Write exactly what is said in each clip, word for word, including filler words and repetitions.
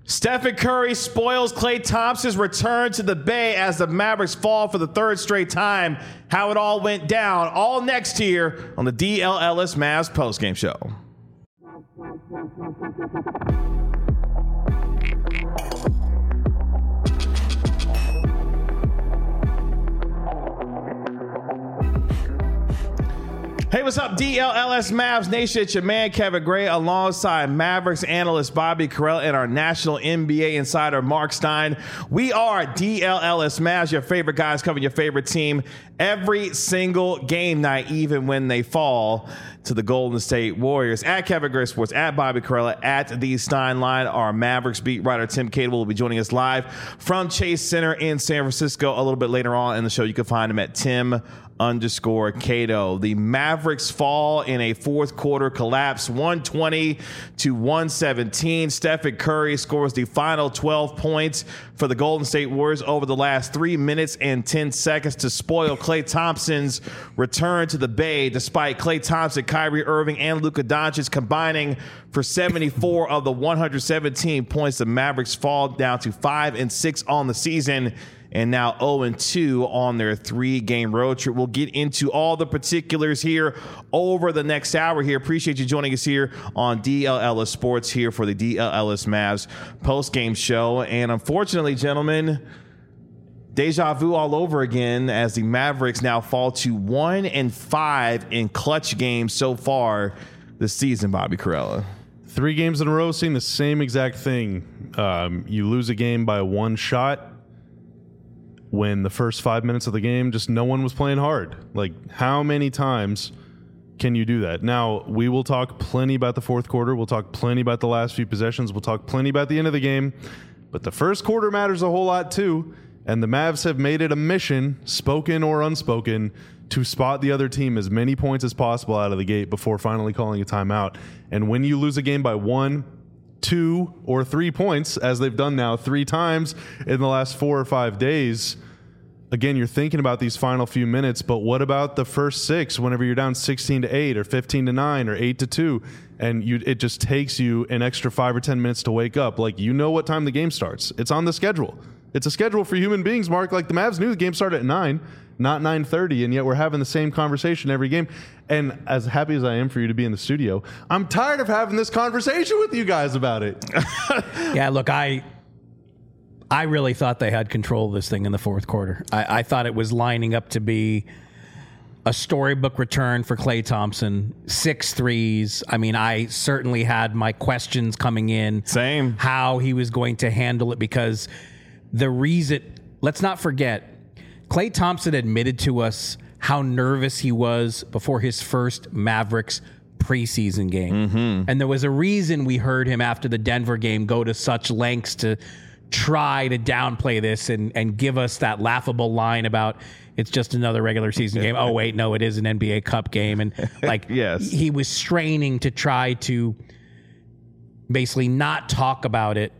Stephen Curry spoils Klay Thompson's return to the Bay as the Mavericks fall for the third straight time. How it all went down, all next here on the D L Ellis Mavs postgame show. Hey, what's up, D L L S Mavs Nation? It's your man, Kevin Gray, alongside Mavericks analyst Bobby Carell and our national N B A insider, Mark Stein. We are D L L S Mavs, your favorite guys covering your favorite team every single game night, even when they fall to the Golden State Warriors. At Kevin Gray Sports, at Bobby Carell, at the Stein Line, our Mavericks beat writer Tim Cable will be joining us live from Chase Center in San Francisco a little bit later on in the show. You can find him at Tim underscore Cato. The Mavericks fall in a fourth quarter collapse, one twenty to one seventeen. Stephen Curry scores the final twelve points for the Golden State Warriors over the last three minutes and ten seconds to spoil Klay Thompson's return to the Bay, despite Klay Thompson, Kyrie Irving, and Luka Doncic combining for seventy-four of the one hundred seventeen points. The Mavericks fall down to five and six on the season, and now oh and two on their three-game road trip. We'll get into all the particulars here over the next hour here. Appreciate you joining us here on D L Ellis Sports here for the D L Ellis Mavs post-game show. And unfortunately, gentlemen, deja vu all over again as the Mavericks now fall to one and five in clutch games so far this season, Bobby Carella. Three games in a row seeing the same exact thing. Um, you lose a game by one shot when the first five minutes of the game, just no one was playing hard. Like, how many times can you do that? Now, we will talk plenty about the fourth quarter. We'll talk plenty about the last few possessions. We'll talk plenty about the end of the game. But the first quarter matters a whole lot, too. And the Mavs have made it a mission, spoken or unspoken, to spot the other team as many points as possible out of the gate before finally calling a timeout. And when you lose a game by one, two, or three points, as they've done now three times in the last four or five days, again, you're thinking about these final few minutes, but what about the first six whenever you're down sixteen to eight or fifteen to nine or eight to two, and you it just takes you an extra five or ten minutes to wake up? Like, you know what time the game starts. It's on the schedule. It's a schedule for human beings, Mark. Like, the Mavs knew the game started at nine, not nine thirty, and yet we're having the same conversation every game. And as happy as I am for you to be in the studio, I'm tired of having this conversation with you guys about it. Yeah, look, I... I really thought they had control of this thing in the fourth quarter. I, I thought it was lining up to be a storybook return for Klay Thompson, six threes. I mean, I certainly had my questions coming in. Same. How he was going to handle it, because the reason, let's not forget, Klay Thompson admitted to us how nervous he was before his first Mavericks preseason game. Mm-hmm. And there was a reason we heard him after the Denver game go to such lengths to try to downplay this and, and give us that laughable line about it's just another regular season game. Oh, wait, no, it is an N B A Cup game. And like, yes. He was straining to try to basically not talk about it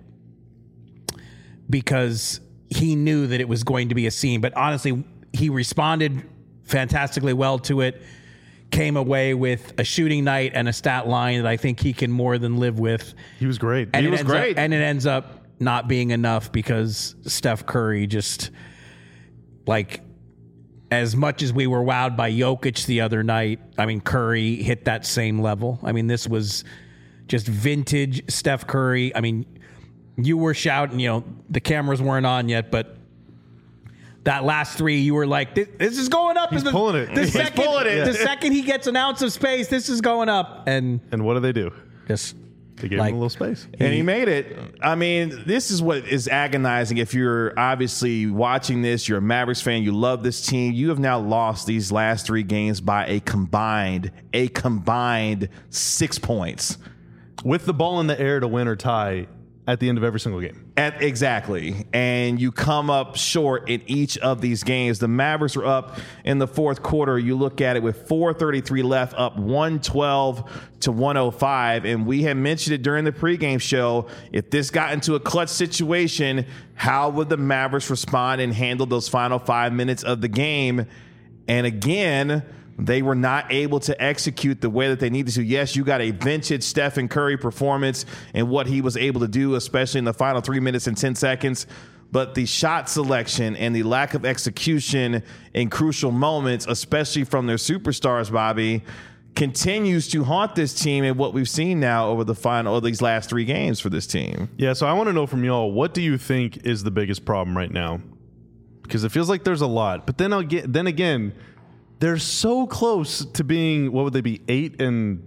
because he knew that it was going to be a scene. But honestly, he responded fantastically well to it, came away with a shooting night and a stat line that I think he can more than live with. He was great. And he was great. Up, and it ends up not being enough because Steph Curry just, like, as much as we were wowed by Jokic the other night, I mean, Curry hit that same level. I mean, this was just vintage Steph Curry. I mean, you were shouting, you know, the cameras weren't on yet, but that last three, you were like, this, this is going up. He's the, pulling it. The He's second, pulling it. The second he gets an ounce of space, this is going up. And, And what do they do? just... They gave Like, him a little space. And he made it. I mean, this is what is agonizing. If you're obviously watching this, you're a Mavericks fan, you love this team, you have now lost these last three games by a combined, a combined six points. With the ball in the air to win or tie at the end of every single game. At, exactly. And you come up short in each of these games. The Mavericks were up in the fourth quarter. You look at it with four thirty-three left, up one twelve to one oh five. And we had mentioned it during the pregame show. If this got into a clutch situation, how would the Mavericks respond and handle those final five minutes of the game? And again, They were not able to execute the way that they needed to. Yes, you got a vintage Stephen Curry performance and what he was able to do, especially in the final three minutes and ten seconds. But the shot selection and the lack of execution in crucial moments, especially from their superstars, Bobby, continues to haunt this team and what we've seen now over the final, or these last three games for this team. Yeah, so I want to know from y'all, what do you think is the biggest problem right now? Because it feels like there's a lot. But then I'll get, then again, they're so close to being, what would they be, eight and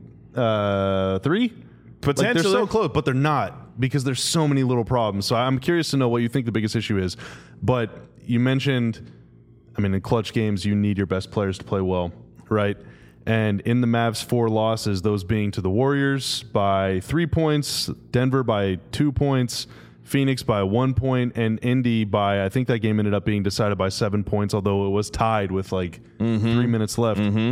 uh, three? Potentially. Like they're so close, but they're not because there's so many little problems. So I'm curious to know what you think the biggest issue is. But you mentioned, I mean, in clutch games, you need your best players to play well, right? And in the Mavs' four losses, those being to the Warriors by three points, Denver by two points, Phoenix by one point, and Indy by, I think that game ended up being decided by seven points, although it was tied with like mm-hmm. three minutes left. Mm-hmm.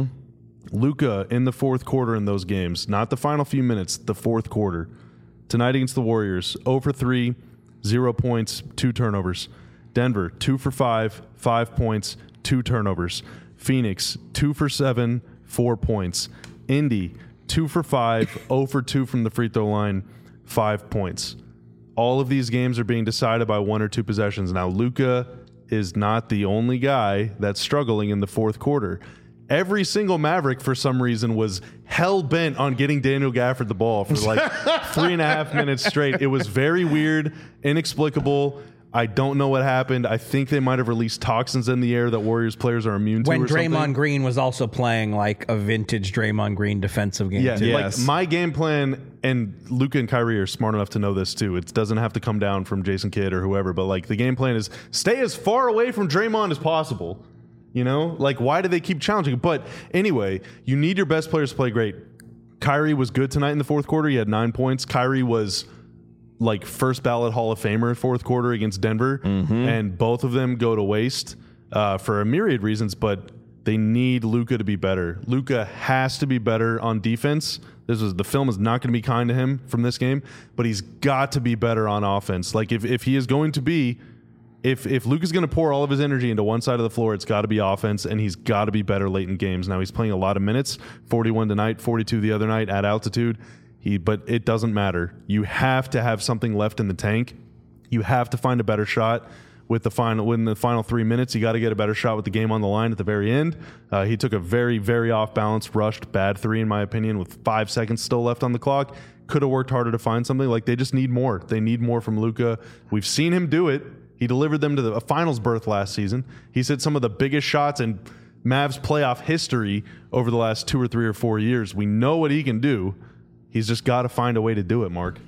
Luka in the fourth quarter in those games, not the final few minutes, the fourth quarter. Tonight against the Warriors, zero for three, zero points, two turnovers. Denver, two for five, five points, two turnovers. Phoenix, two for seven, four points. Indy, two for five, zero for two from the free throw line, five points. All of these games are being decided by one or two possessions. Now, Luka is not the only guy that's struggling in the fourth quarter. Every single Maverick, for some reason, was hell-bent on getting Daniel Gafford the ball for like three and a half minutes straight. It was very weird, inexplicable. I don't know what happened. I think they might have released toxins in the air that Warriors players are immune to. When or Draymond something. Green was also playing like a vintage Draymond Green defensive game. Yeah, too. Yes. like my game plan, and Luka and Kyrie are smart enough to know this too. It doesn't have to come down from Jason Kidd or whoever, but like the game plan is stay as far away from Draymond as possible. You know, like why do they keep challenging? But anyway, you need your best players to play great. Kyrie was good tonight in the fourth quarter. He had nine points. Kyrie was like first ballot Hall of Famer fourth quarter against Denver, mm-hmm. and both of them go to waste uh, for a myriad reasons, but they need Luka to be better. Luka has to be better on defense. This was the film is not going to be kind to him from this game, but he's got to be better on offense. Like if, if he is going to be, if if Luka's going to pour all of his energy into one side of the floor, it's got to be offense, and he's got to be better late in games. Now he's playing a lot of minutes, forty-one tonight, forty-two the other night at altitude. He, but it doesn't matter. You have to have something left in the tank. You have to find a better shot with the final. Within the final three minutes, you got to get a better shot with the game on the line at the very end. Uh, he took a very, very off balance, rushed, bad three in my opinion, with five seconds still left on the clock. Could have worked harder to find something. Like they just need more. They need more from Luka. We've seen him do it. He delivered them to the, a finals berth last season. He's hit some of the biggest shots in Mavs playoff history over the last two or three or four years. We know what he can do. He's just got to find a way to do it, Mark.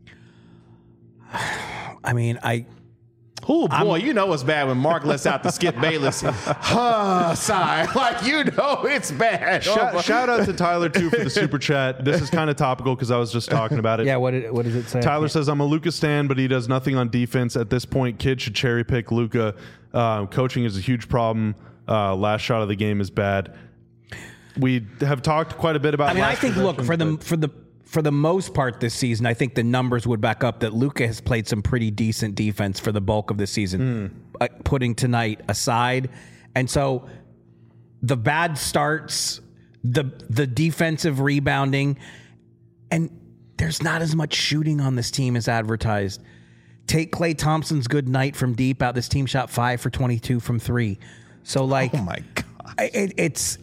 I mean, I... Oh, boy, I'm, you know it's bad when Mark lets out the Skip Bayless uh, sigh. Like, you know it's bad. Shout, oh, shout out to Tyler, too, for the super chat. This is kind of topical because I was just talking about it. Yeah, what, did, what does it say? Tyler says, I'm a Luka stan, but he does nothing on defense. At this point, kids should cherry pick Luka. Uh, coaching is a huge problem. Uh, last shot of the game is bad. We have talked quite a bit about. I mean, I think look for the for the for the most part this season, I think the numbers would back up that Luka has played some pretty decent defense for the bulk of the season, mm. uh, putting tonight aside. And so the bad starts, the the defensive rebounding, and there's not as much shooting on this team as advertised. Take Klay Thompson's good night from deep out. This team shot five for twenty-two from three. So like, oh my God, it, it's.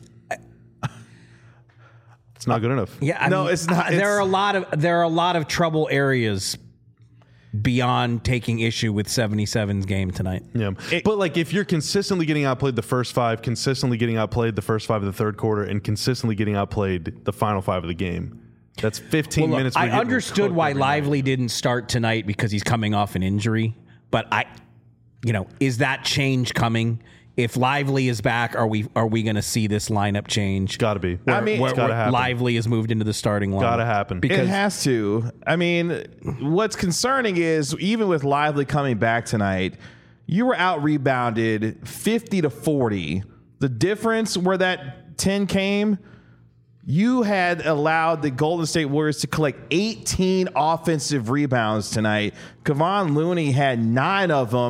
It's not good enough. Yeah, I no, mean, it's not. There it's, are a lot of there are a lot of trouble areas beyond taking issue with seventy-seven's game tonight. Yeah, it, but like if you're consistently getting outplayed the first five, consistently getting outplayed the first five of the third quarter, and consistently getting outplayed the final five of the game, that's fifteen well, look, minutes. I understood why Lively night. didn't start tonight because he's coming off an injury, but I, you know, is that change coming? If Lively is back, are we are we going to see this lineup change? Got to be. Where, I mean, where, it's where gotta happen. Lively is moved into the starting line. Got to happen. Because it has to. I mean, what's concerning is even with Lively coming back tonight, you were out rebounded fifty to forty. The difference where that ten came, you had allowed the Golden State Warriors to collect eighteen offensive rebounds tonight. Kevon Looney had nine of them,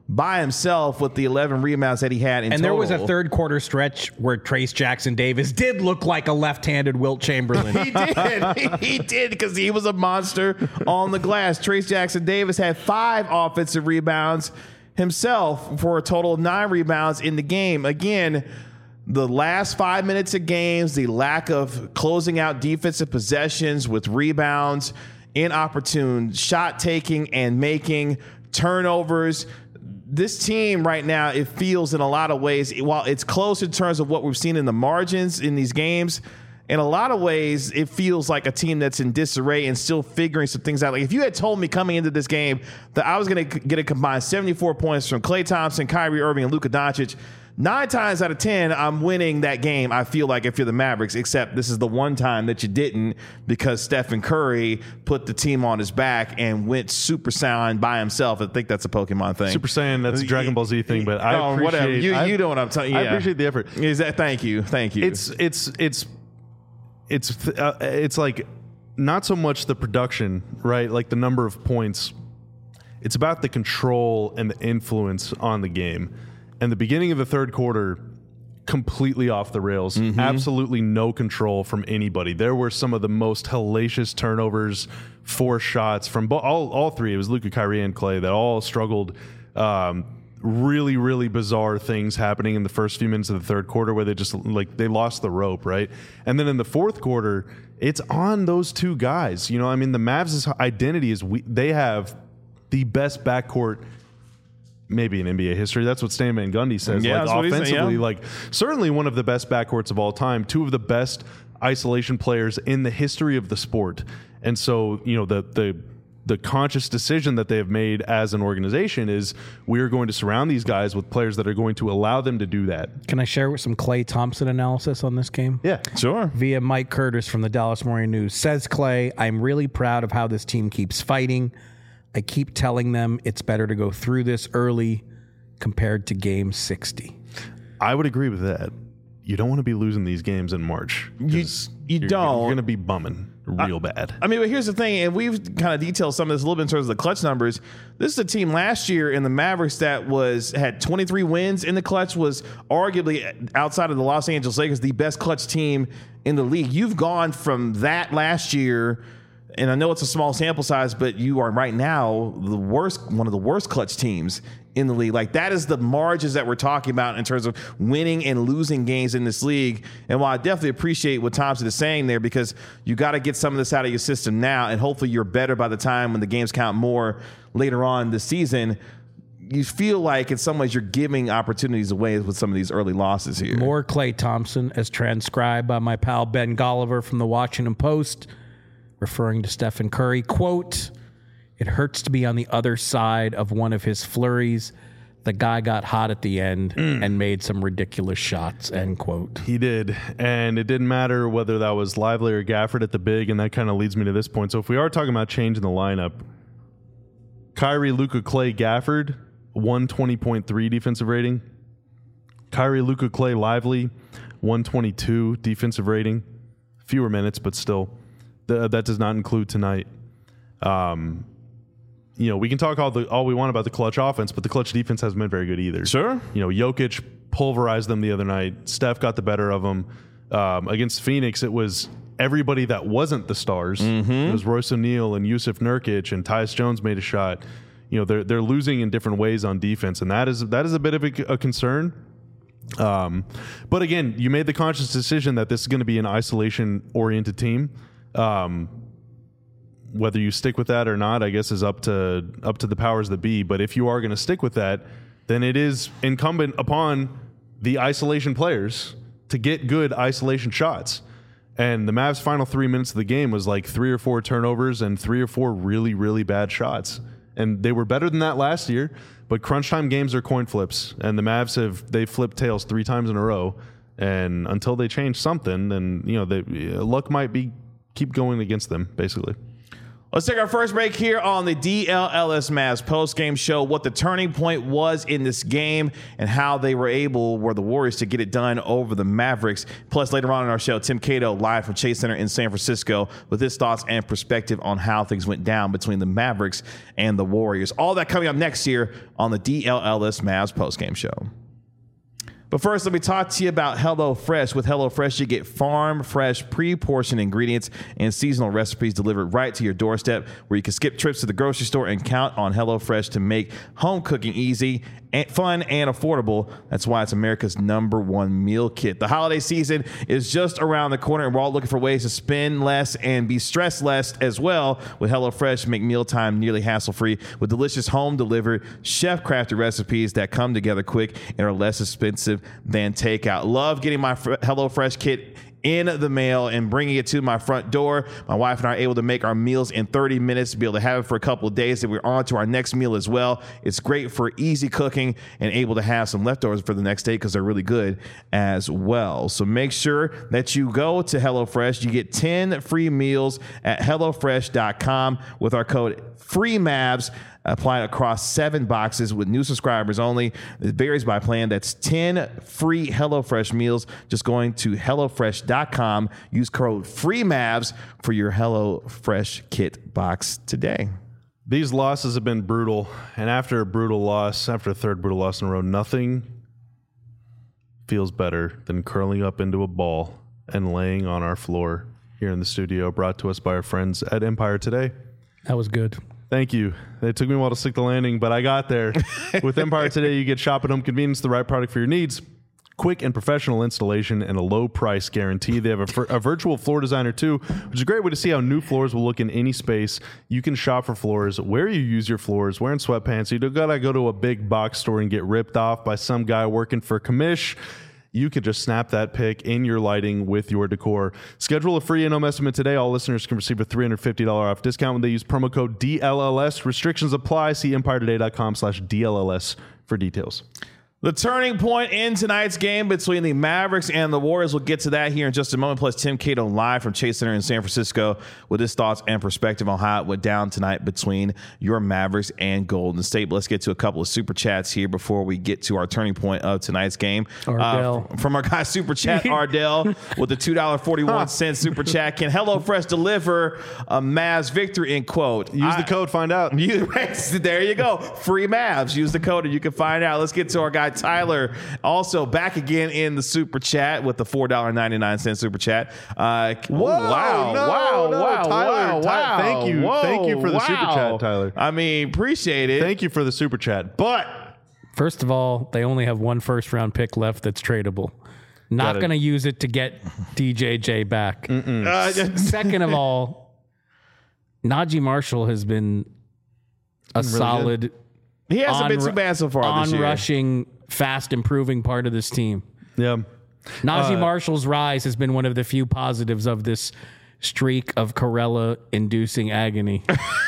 by himself with the eleven rebounds that he had in and total. there was a third quarter stretch where Trace Jackson Davis did look like a left-handed Wilt Chamberlain. He did. he, he did because he was a monster on the glass. Trace Jackson Davis had five offensive rebounds himself for a total of nine rebounds in the game. Again, the last five minutes of games, the lack of closing out defensive possessions with rebounds, inopportune shot taking and making, turnovers. This team right now, it feels in a lot of ways, while it's close in terms of what we've seen in the margins in these games, in a lot of ways, it feels like a team that's in disarray and still figuring some things out. Like if you had told me coming into this game that I was going to get a combined seventy-four points from Klay Thompson, Kyrie Irving, and Luka Doncic, nine times out of ten, I'm winning that game, I feel like, if you're the Mavericks, except this is the one time that you didn't because Stephen Curry put the team on his back and went Super Saiyan by himself. I think that's a Pokemon thing. Super Saiyan, that's a Dragon Ball Z thing, but I oh, appreciate whatever. You, I, you know what I'm telling you. I Yeah. appreciate the effort. Is that, thank you. Thank you. It's it's it's it's uh, it's like not so much the production, right? Like the number of points. It's about the control and the influence on the game. And the beginning of the third quarter, completely off the rails. Mm-hmm. Absolutely no control from anybody. There were some of the most hellacious turnovers, four shots from bo- all all three. It was Luka, Kyrie, and Klay that all struggled. Um, really, really bizarre things happening in the first few minutes of the third quarter where they just like they lost the rope, right? And then in the fourth quarter, it's on those two guys. You know, I mean, the Mavs' identity is we, they have the best backcourt maybe in N B A history. That's what Stan Van Gundy says. Yeah, like that's what he said, offensively, yeah. like certainly one of the best backcourts of all time, two of the best isolation players in the history of the sport. And so, you know, the the the conscious decision that they have made as an organization is we are going to surround these guys with players that are going to allow them to do that. Can I share with some Klay Thompson analysis on this game? Yeah, sure. Via Mike Curtis from the Dallas Morning News. Says Klay, I'm really proud of how this team keeps fighting. I keep telling them it's better to go through this early compared to game sixty. I would agree with that. You don't want to be losing these games in March. You, you you're, don't. You're going to be bumming real I, bad. I mean, but here's the thing, and we've kind of detailed some of this a little bit in terms of the clutch numbers. This is a team last year in the Mavericks that was had twenty-three wins in the clutch, was arguably outside of the Los Angeles Lakers the best clutch team in the league. You've gone from that last year. And I know it's a small sample size, but you are right now the worst, one of the worst clutch teams in the league. Like that is the margins that we're talking about in terms of winning and losing games in this league. And while I definitely appreciate what Thompson is saying there, because you got to get some of this out of your system now, and hopefully you're better by the time when the games count more later on this season. You feel like in some ways you're giving opportunities away with some of these early losses here. More Klay Thompson as transcribed by my pal Ben Golliver from the Washington Post. Referring to Stephen Curry, quote, it hurts to be on the other side of one of his flurries. The guy got hot at the end mm. and made some ridiculous shots, end quote. He did. And it didn't matter whether that was Lively or Gafford at the big, and that kind of leads me to this point. So if we are talking about changing the lineup, Kyrie, Luka, Klay, Gafford, one twenty point three defensive rating. Kyrie, Luka, Klay, Lively, one twenty-two defensive rating. Fewer minutes, but still. The, that does not include tonight. Um, you know, we can talk all the all we want about the clutch offense, but the clutch defense hasn't been very good either. Sure. You know, Jokic pulverized them the other night. Steph got the better of them. Um, against Phoenix, it was everybody that wasn't the stars. Mm-hmm. It was Royce O'Neal and Yusuf Nurkic, and Tyus Jones made a shot. You know, they're they're losing in different ways on defense, and that is that is a bit of a, a concern. Um, but again, you made the conscious decision that this is going to be an isolation-oriented team. Um, whether you stick with that or not, I guess is up to up to the powers that be. But if you are going to stick with that, then it is incumbent upon the isolation players to get good isolation shots. And the Mavs' final three minutes of the game was like three or four turnovers and three or four really, really bad shots. And they were better than that last year. But crunch time games are coin flips, and the Mavs have they flipped tails three times in a row. And until they change something, then you know, they, luck might be. Keep going against them, basically. Let's take our first break here on the D L L S Mavs post-game show, what the turning point was in this game and how they were able, were the Warriors, to get it done over the Mavericks. Plus, later on in our show, Tim Cato live from Chase Center in San Francisco with his thoughts and perspective on how things went down between the Mavericks and the Warriors. All that coming up next year on the D L L S Mavs post-game show. But first, let me talk to you about HelloFresh. With HelloFresh, you get farm fresh, pre-portioned ingredients and seasonal recipes delivered right to your doorstep, where you can skip trips to the grocery store and count on HelloFresh to make home cooking easy, and fun, and affordable. That's why it's America's number one meal kit. The holiday season is just around the corner, and we're all looking for ways to spend less and be stressed less as well. With HelloFresh, make mealtime nearly hassle-free with delicious home-delivered, chef-crafted recipes that come together quick and are less expensive than takeout. Love getting my HelloFresh kit in the mail and bringing it to my front door. My wife and I are able to make our meals in thirty minutes, to be able to have it for a couple of days, and we're on to our next meal as well. It's great for easy cooking and able to have some leftovers for the next day because they're really good as well. So make sure that you go to HelloFresh. You get ten free meals at HelloFresh dot com with our code FREEMAVS. Applied across seven boxes with new subscribers only. It varies by plan. That's ten free HelloFresh meals. Just going to HelloFresh dot com. Use code FREEMAVS for your HelloFresh kit box today. These losses have been brutal. And after a brutal loss, after a third brutal loss in a row, nothing feels better than curling up into a ball and laying on our floor here in the studio, brought to us by our friends at Empire Today. That was good. Thank you. It took me a while to stick the landing, but I got there. With Empire Today, you get shop at home convenience, the right product for your needs, quick and professional installation, and a low price guarantee. They have a, a virtual floor designer too, which is a great way to see how new floors will look in any space. You can shop for floors where you use your floors, wearing sweatpants. You don't gotta go to a big box store and get ripped off by some guy working for commish. You could just snap that pic in your lighting with your decor. Schedule a free in-home estimate today. All listeners can receive a three hundred fifty dollars off discount when they use promo code D L L S. Restrictions apply. See empire today dot com slash D L L S for details. The turning point in tonight's game between the Mavericks and the Warriors. We'll get to that here in just a moment. Plus, Tim Cato live from Chase Center in San Francisco with his thoughts and perspective on how it went down tonight between your Mavericks and Golden State. But let's get to a couple of super chats here before we get to our turning point of tonight's game. Ardell. Uh, from our guy Super Chat Ardell with the two dollars and forty-one cents super chat. Can HelloFresh deliver a Mavs victory? In quote. Use I, the code, find out. You, there you go. Free Mavs. Use the code and you can find out. Let's get to our guy Tyler, also back again in the super chat with the four dollars and ninety-nine cents super chat. Uh, Whoa, wow, no, wow, no, wow, Tyler, wow, Ty- wow. thank you. Whoa, Thank you for the wow. super chat, Tyler. I mean, appreciate it. Thank you for the super chat. But First of all, they only have one first round pick left that's tradable. Not Gotta- going to use it to get D J J back. Uh, Second of all, Najee Marshall has been a really solid, he hasn't been on- too bad so far this year. on-rushing, fast improving part of this team. yeah. Najee Uh, Marshall's rise has been one of the few positives of this streak of Corella-inducing agony.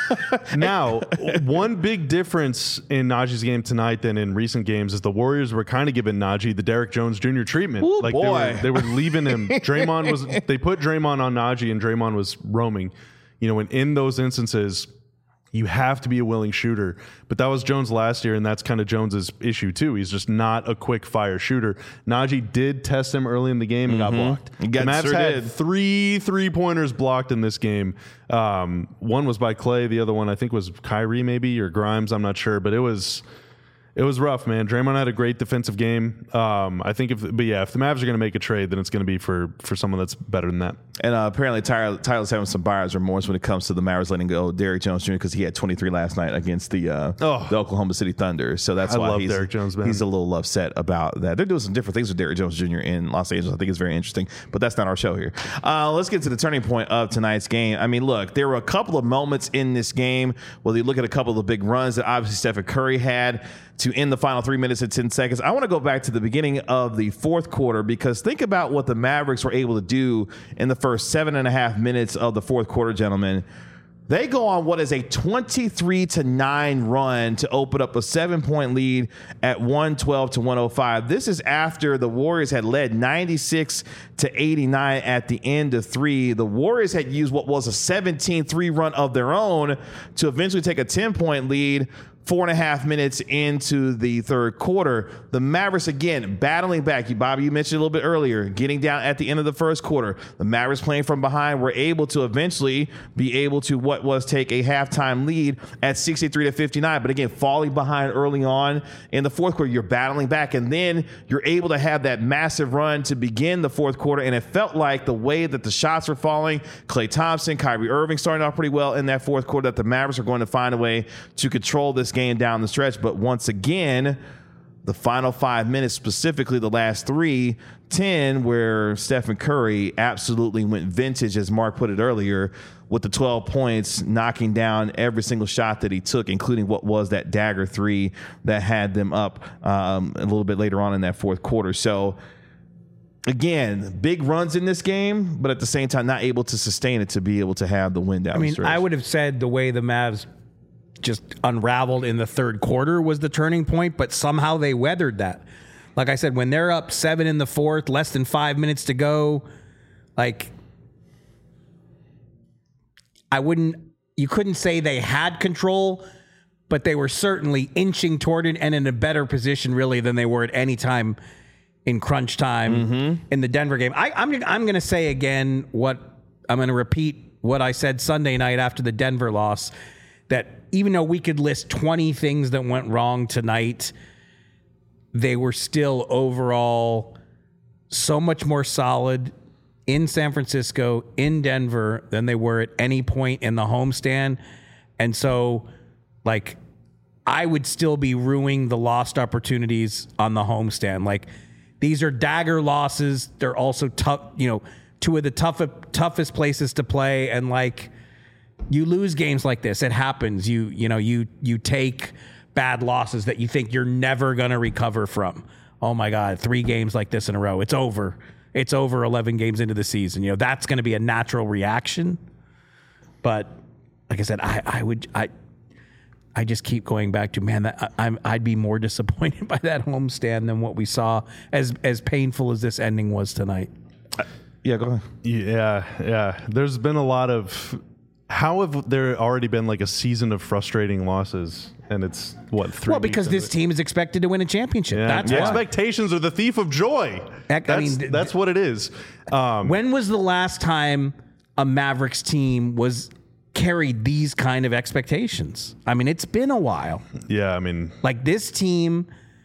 Now, one big difference in Najee's game tonight than in recent games is the Warriors were kind of giving Najee the Derrick Jones Junior treatment. Ooh, like boy. They, were, they were leaving him. Draymond was. They put Draymond on Najee, and Draymond was roaming. You know, and in those instances, you have to be a willing shooter. But that was Jones last year, and that's kind of Jones's issue too. He's just not a quick fire shooter. Najee did test him early in the game and got blocked. He got- the Mavs sure had did. three three pointers blocked in this game. Um, one was by Clay, the other one I think was Kyrie maybe or Grimes. I'm not sure, but it was. It was rough, man. Draymond had a great defensive game. Um, I think if, but yeah, if the Mavs are going to make a trade, then it's going to be for for someone that's better than that. And uh, apparently Tyler, Tyler's having some buyer's remorse when it comes to the Mavericks letting go Derrick Jones Junior because he had twenty-three last night against the uh, Oh. the Oklahoma City Thunder. So that's I why love he's, Derrick Jones, man. he's a little upset about that. They're doing some different things with Derrick Jones Junior in Los Angeles. I think it's very interesting, but that's not our show here. Uh, let's get to the turning point of tonight's game. I mean, look, there were a couple of moments in this game where you look at a couple of the big runs that obviously Stephen Curry had to end the final three minutes and ten seconds. I want to go back to the beginning of the fourth quarter because think about what the Mavericks were able to do in the first seven and a half minutes of the fourth quarter, gentlemen. They go on what is a twenty-three to nine run to open up a seven-point lead at one twelve to one oh five. This is after the Warriors had led ninety-six to eighty-nine at the end of three. The Warriors had used what was a seventeen three run of their own to eventually take a ten-point lead. Four and a half minutes into the third quarter, the Mavericks again battling back. You, Bobby, you mentioned a little bit earlier, getting down at the end of the first quarter. The Mavericks playing from behind were able to eventually be able to what was take a halftime lead at sixty-three to fifty-nine. But again, falling behind early on in the fourth quarter, you're battling back, and then you're able to have that massive run to begin the fourth quarter. And it felt like the way that the shots were falling, Klay Thompson, Kyrie Irving starting off pretty well in that fourth quarter, that the Mavericks are going to find a way to control this game down the stretch. But once again, the final five minutes, specifically the last three, ten, where Stephen Curry absolutely went vintage, as Mark put it earlier, with the twelve points, knocking down every single shot that he took, including what was that dagger three that had them up um, a little bit later on in that fourth quarter. So again, big runs in this game, but at the same time, not able to sustain it to be able to have the win down I mean, the stretch. I would have said the way the Mavs just unraveled in the third quarter was the turning point, but somehow they weathered that. Like I said, when they're up seven in the fourth, less than five minutes to go, like I wouldn't, you couldn't say they had control, but they were certainly inching toward it and in a better position really than they were at any time in crunch time mm-hmm. in the Denver game. I, I'm, I'm going to say again what I'm going to repeat what I said Sunday night after the Denver loss, that even though we could list twenty things that went wrong tonight, they were still overall so much more solid in San Francisco, in Denver, than they were at any point in the homestand. And so, like, I would still be ruining the lost opportunities on the homestand. Like, these are dagger losses. They're also tough, you know, two of the toughest, toughest places to play. And, like, you lose games like this. It happens. You you know, you you take bad losses that you think you're never going to recover from. Oh, my God, three games like this in a row. It's over. It's over eleven games into the season. You know, that's going to be a natural reaction. But like I said, I, I would I I just keep going back to, man, that I, I'm I'd be more disappointed by that homestand than what we saw, as as painful as this ending was tonight. Uh, yeah, go ahead. Yeah, yeah. There's been a lot of. How have there already been like a season of frustrating losses? And it's what, three Well, because this team is expected to win a championship. Yeah. That's yeah. why. Expectations are the thief of joy. Heck, that's, I mean, th- that's what it is. Um, when was the last time a Mavericks team was carried these kind of expectations? I mean, it's been a while. Yeah, I mean, like this team,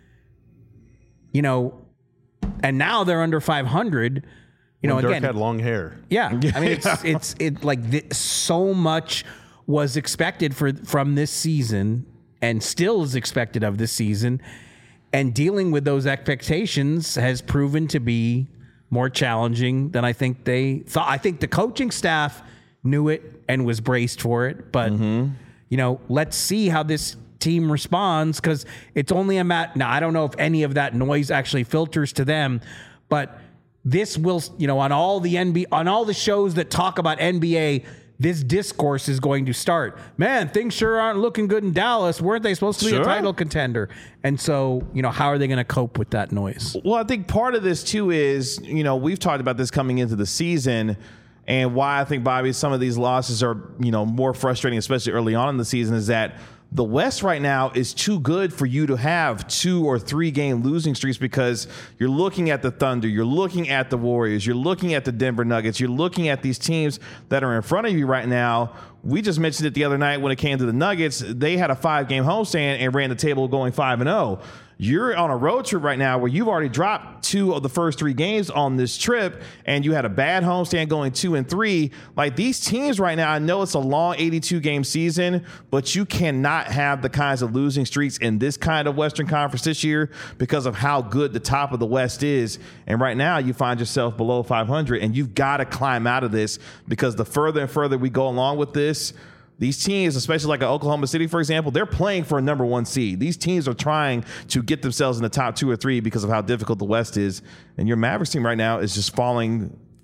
you know, and now they're under five hundred. You know, Dirk again, had long hair. Yeah, I mean, it's it's it like th- so much was expected for from this season, and still is expected of this season, and dealing with those expectations has proven to be more challenging than I think they thought. I think the coaching staff knew it and was braced for it, but mm-hmm. you know, let's see how this team responds, because it's only a mat. Now, I don't know if any of that noise actually filters to them, but this will, you know, on all the N B A, on all the shows that talk about N B A, this discourse is going to start. Man, things sure aren't looking good in Dallas. Weren't they supposed to be sure. a title contender? And so, you know, how are they going to cope with that noise? Well, I think part of this too is, you know, we've talked about this coming into the season, and why I think, Bobby, some of these losses are, you know, more frustrating, especially early on in the season, is that the West right now is too good for you to have two or three game losing streaks, because you're looking at the Thunder, you're looking at the Warriors, you're looking at the Denver Nuggets, you're looking at these teams that are in front of you right now. We just mentioned it the other night when it came to the Nuggets. They had a five game homestand and ran the table going five and oh. You're on a road trip right now where you've already dropped two of the first three games on this trip, and you had a bad homestand going two and three. Like, these teams right now, I know it's a long eighty-two game season, but you cannot have the kinds of losing streaks in this kind of Western Conference this year because of how good the top of the West is. And right now you find yourself below five hundred, and you've got to climb out of this, because the further and further we go along with this, these teams, especially like Oklahoma City, for example, they're playing for a number one seed. These teams are trying to get themselves in the top two or three because of how difficult the West is. And your Mavericks team right now is just falling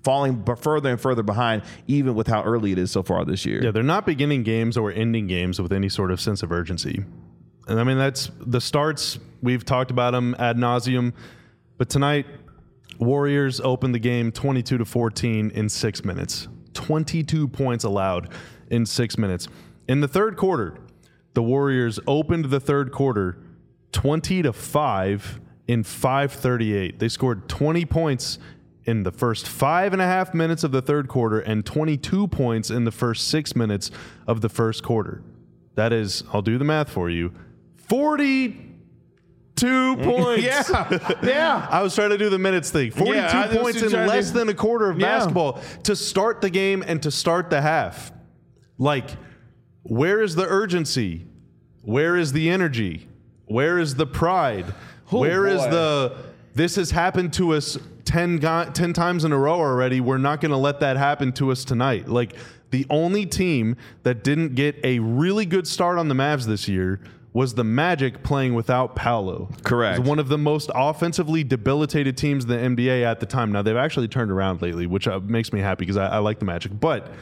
falling b- further and further behind, even with how early it is so far this year. Yeah, they're not beginning games or ending games with any sort of sense of urgency. And I mean, that's the starts. We've talked about them ad nauseum. But tonight, Warriors opened the game twenty-two to fourteen in six minutes. twenty-two points allowed in six minutes. In the third quarter, the Warriors opened the third quarter twenty to five in five thirty-eight. They scored twenty points in the first five and a half minutes of the third quarter and twenty-two points in the first six minutes of the first quarter. That is, I'll do the math for you, forty-two points. Yeah, yeah. I was trying to do the minutes thing. forty-two Yeah, I was points in trying to less do- than a quarter of Yeah. basketball to start the game and to start the half. Like, where is the urgency? Where is the energy? Where is the pride? Oh, Where is boy. the, this has happened to us ten, go- ten times in a row already. We're not going to let that happen to us tonight. Like, the only team that didn't get a really good start on the Mavs this year was the Magic playing without Paolo. Correct. It was one of the most offensively debilitated teams in the N B A at the time. Now, they've actually turned around lately, which uh, makes me happy because I, I like the Magic. But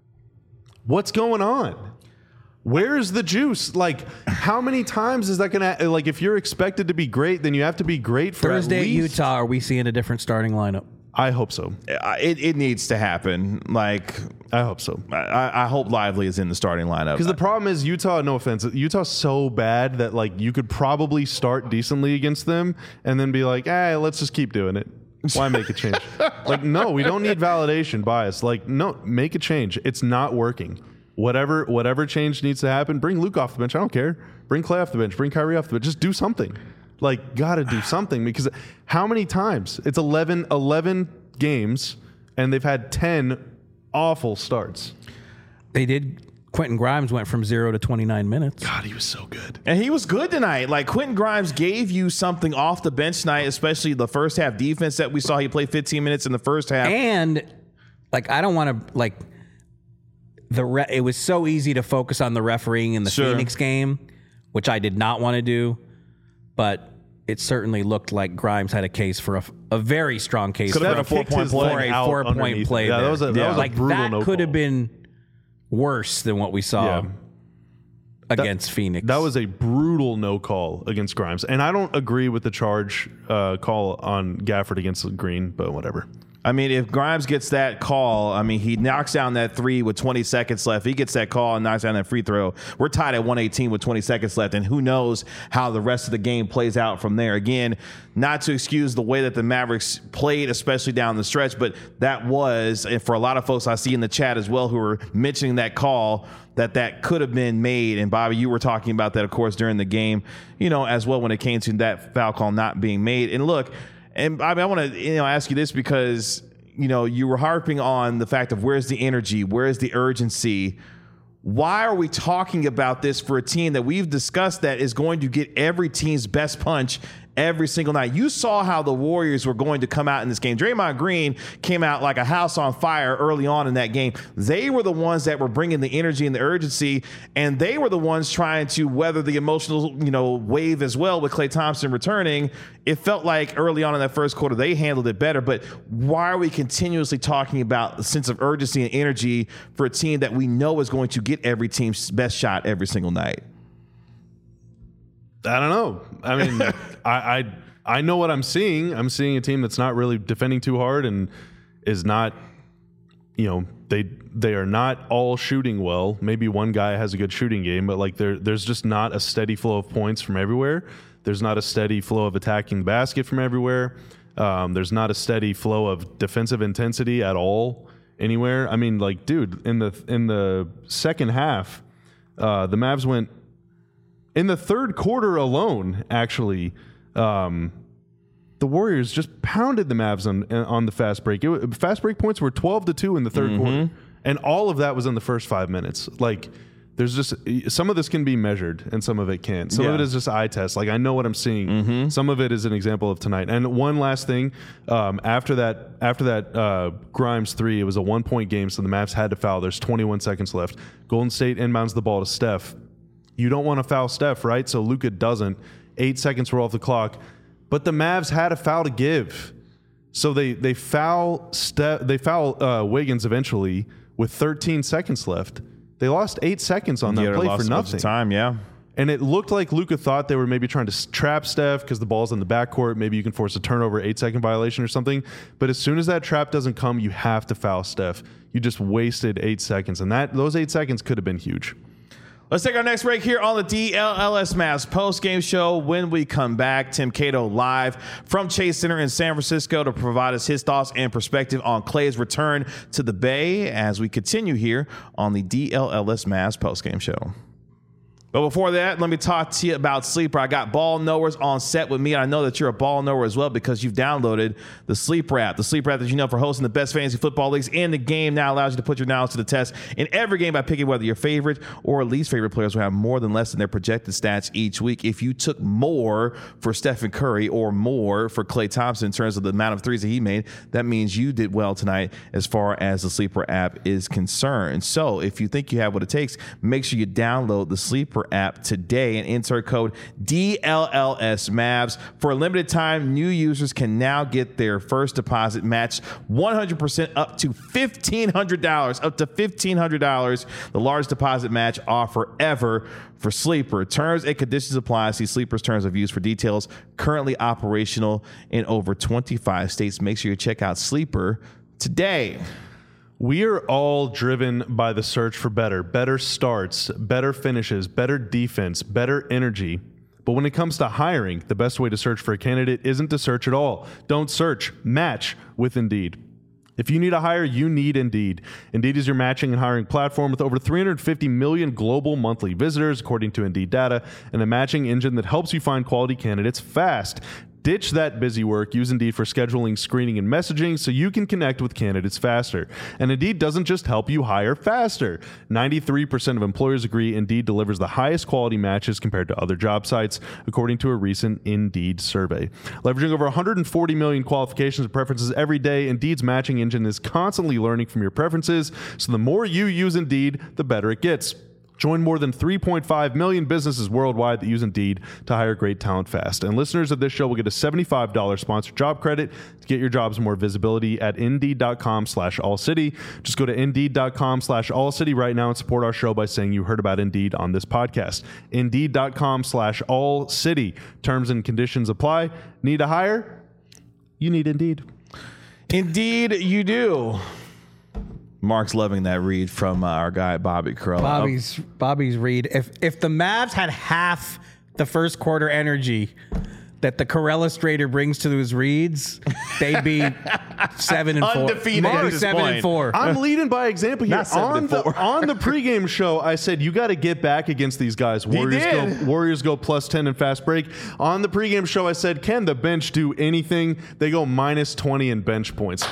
what's going on? Where is the juice? Like, how many times is that going to, like, if you're expected to be great, then you have to be great for Thursday at at least, Utah, are we seeing a different starting lineup? I hope so. Uh, It, it needs to happen. Like, I hope so. I, I hope Lively is in the starting lineup. Because the problem is Utah, no offense, Utah's so bad that, like, you could probably start decently against them and then be like, hey, let's just keep doing it. Why make a change? Like, no, we don't need validation bias. Like, no, make a change. It's not working. Whatever whatever change needs to happen, bring Luke off the bench. I don't care. Bring Clay off the bench. Bring Kyrie off the bench. Just do something. Like, gotta do something, because how many times? It's eleven, eleven games, and they've had ten awful starts. They did. Quentin Grimes went from zero to twenty-nine minutes. God, he was so good. And he was good tonight. Like, Quentin Grimes gave you something off the bench tonight, especially the first half defense that we saw. He played fifteen minutes in the first half. And, like, I don't want to, like, the re- it was so easy to focus on the refereeing in the Sure. Phoenix game, which I did not want to do, but it certainly looked like Grimes had a case for a, a very strong case Could for have a been a four-point play. for a out four-point underneath play. it. Yeah, that there. was a- that was a like brutal that no could have call. been worse than what we saw Yeah. against Phoenix. That was a brutal no call against Grimes. And I don't agree with the charge uh, call on Gafford against Green, but whatever. I mean, if Grimes gets that call, I mean, he knocks down that three with twenty seconds left. He gets that call and knocks down that free throw. We're tied at one eighteen with twenty seconds left, and who knows how the rest of the game plays out from there. Again, not to excuse the way that the Mavericks played, especially down the stretch, but that was, and for a lot of folks I see in the chat as well who are mentioning that call, that that could have been made. And Bobby, you were talking about that, of course, during the game, you know, as well when it came to that foul call not being made. And look, and I, mean, I want to you know ask you this because you know you were harping on the fact of where's the energy, where's the urgency. Why are we talking about this for a team that we've discussed that is going to get every team's best punch every single night? You saw how the Warriors were going to come out in this game. Draymond Green came out like a house on fire early on in that game. They were the ones that were bringing the energy and the urgency, and they were the ones trying to weather the emotional, you know, wave as well with Klay Thompson returning. It felt like early on in that first quarter they handled it better, but why are we continuously talking about the sense of urgency and energy for a team that we know is going to get every team's best shot every single night? I don't know. I mean, I, I I know what I'm seeing. I'm seeing a team that's not really defending too hard and is not, you know, they they are not all shooting well. Maybe one guy has a good shooting game, but like there there's just not a steady flow of points from everywhere. There's not a steady flow of attacking the basket from everywhere. Um, there's not a steady flow of defensive intensity at all anywhere. I mean, like, dude, in the in the second half, uh, the Mavs went. In the third quarter alone, actually, um, the Warriors just pounded the Mavs on on the fast break. It, fast break points were twelve to two in the third mm-hmm. quarter, and all of that was in the first five minutes. Like, there's just some of this can be measured, and some of it can't. Some yeah. of it is just eye test. Like, I know what I'm seeing. Mm-hmm. Some of it is an example of tonight. And one last thing, um, after that, after that uh, Grimes three, it was a one point game, so the Mavs had to foul. There's twenty-one seconds left. Golden State inbounds the ball to Steph. You don't want to foul Steph, right? So Luka doesn't. Eight seconds were off the clock. But the Mavs had a foul to give. So they they foul Ste- they foul uh, Wiggins eventually with thirteen seconds left. They lost eight seconds on that Yeah, play lost for a bunch nothing. of time, yeah. And it looked like Luka thought they were maybe trying to trap Steph because the ball's in the backcourt. Maybe you can force a turnover, eight second violation or something. But as soon as that trap doesn't come, you have to foul Steph. You just wasted eight seconds, and that those eight seconds could have been huge. Let's take our next break here on the D L L S Mavs post-game show. When we come back, Tim Cato live from Chase Center in San Francisco to provide us his thoughts and perspective on Klay's return to the Bay as we continue here on the D L L S Mavs post-game show. But before that, let me talk to you about Sleeper. I got ball knowers on set with me, and I know that you're a ball knower as well because you've downloaded the Sleeper app. The Sleeper app that you know for hosting the best fantasy football leagues in the game now allows you to put your knowledge to the test in every game by picking whether your favorite or least favorite players will have more than less than their projected stats each week. If you took more for Stephen Curry or more for Klay Thompson in terms of the amount of threes that he made, that means you did well tonight as far as the Sleeper app is concerned. So if you think you have what it takes, make sure you download the Sleeper app today and insert code D L L S Mavs. For a limited time, new users can now get their first deposit matched one hundred percent up to fifteen hundred dollars. Up to fifteen hundred dollars, the largest deposit match offer ever for Sleeper. Terms and conditions apply. See Sleeper's terms of use for details. Currently operational in over twenty-five states. Make sure you check out Sleeper today. We are all driven by the search for better, better starts, better finishes, better defense, better energy. But when it comes to hiring, the best way to search for a candidate isn't to search at all. Don't search, match with Indeed. If you need a hire, you need Indeed. Indeed is your matching and hiring platform with over three hundred fifty million global monthly visitors, according to Indeed data, and a matching engine that helps you find quality candidates fast. Ditch that busy work. Use Indeed for scheduling, screening, and messaging so you can connect with candidates faster. And Indeed doesn't just help you hire faster. ninety-three percent of employers agree Indeed delivers the highest quality matches compared to other job sites, according to a recent Indeed survey. Leveraging over one hundred forty million qualifications and preferences every day, Indeed's matching engine is constantly learning from your preferences, so the more you use Indeed, the better it gets. Join more than three point five million businesses worldwide that use Indeed to hire great talent fast. And listeners of this show will get a seventy-five dollars sponsored job credit to get your jobs more visibility at Indeed.com slash All City. Just go to Indeed.com slash All City right now and support our show by saying you heard about Indeed on this podcast. Indeed.com slash All City. Terms and conditions apply. Need to hire? You need Indeed. Indeed, you do. Mark's loving that read from uh, our guy Bobby Carell. Bobby's Bobby's read. If if the Mavs had half the first quarter energy that the Carell-Strader brings to his reads, they'd be seven and four. Undefeated at They'd be this seven point. and four. I'm leading by example here. Not seven On and the, four. on the pregame show, I said, you got to get back against these guys. Warriors did. go Warriors go plus ten in fast break. On the pregame show, I said, can the bench do anything? They go minus twenty in bench points.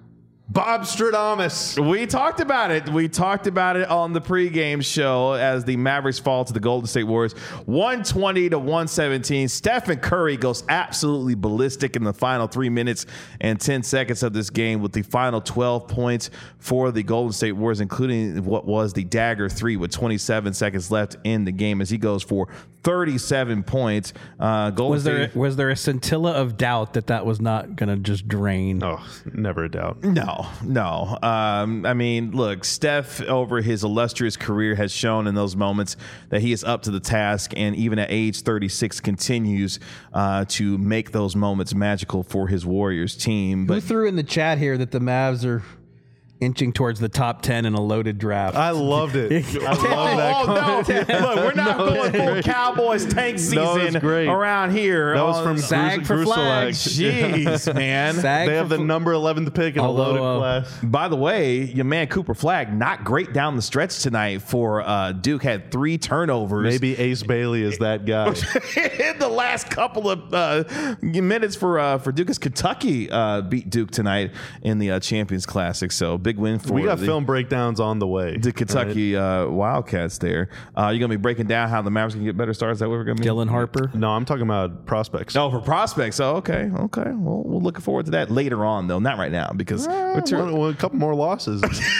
Bob Stradamus. We talked about it. We talked about it on the pregame show as the Mavericks fall to the Golden State Warriors, one twenty to one seventeen. Stephen Curry goes absolutely ballistic in the final three minutes and ten seconds of this game with the final twelve points for the Golden State Warriors, including what was the dagger three with twenty-seven seconds left in the game as he goes for thirty-seven points. Uh, Golden was there State, was there a scintilla of doubt that that was not going to just drain? Oh, never a doubt. No, no. Um, I mean, look, Steph over his illustrious career has shown in those moments that he is up to the task, and even at age thirty-six continues uh, to make those moments magical for his Warriors team. Who But threw in the chat here that the Mavs are inching towards the top ten in a loaded draft? I loved it. I love that. oh, comment. no. Look, we're not No, going full Cowboys tank No, season it's great. around here. That was on- from Sag Grus- for Gruselak. flags. Jeez, man. Sag They for have the fl- number eleventh pick in a Although, loaded uh, class. By the way, your man Cooper Flagg, not great down the stretch tonight for uh, Duke. Had three turnovers. Maybe Ace Bailey is that guy. in the last couple of uh, minutes for uh, for Duke, as Kentucky uh, beat Duke tonight in the uh, Champions Classic. So big win for We got the, film breakdowns on the way. the Kentucky uh, Wildcats there. Uh, you're going to be breaking down how the Mavericks can get better starts. Is that what we're going to be? Dylan Harper. No, I'm talking about prospects. Oh, for prospects. Oh, okay. Okay. Well, we're looking forward to that later on, though. Not right now, because we're too, Well, well, a couple more losses.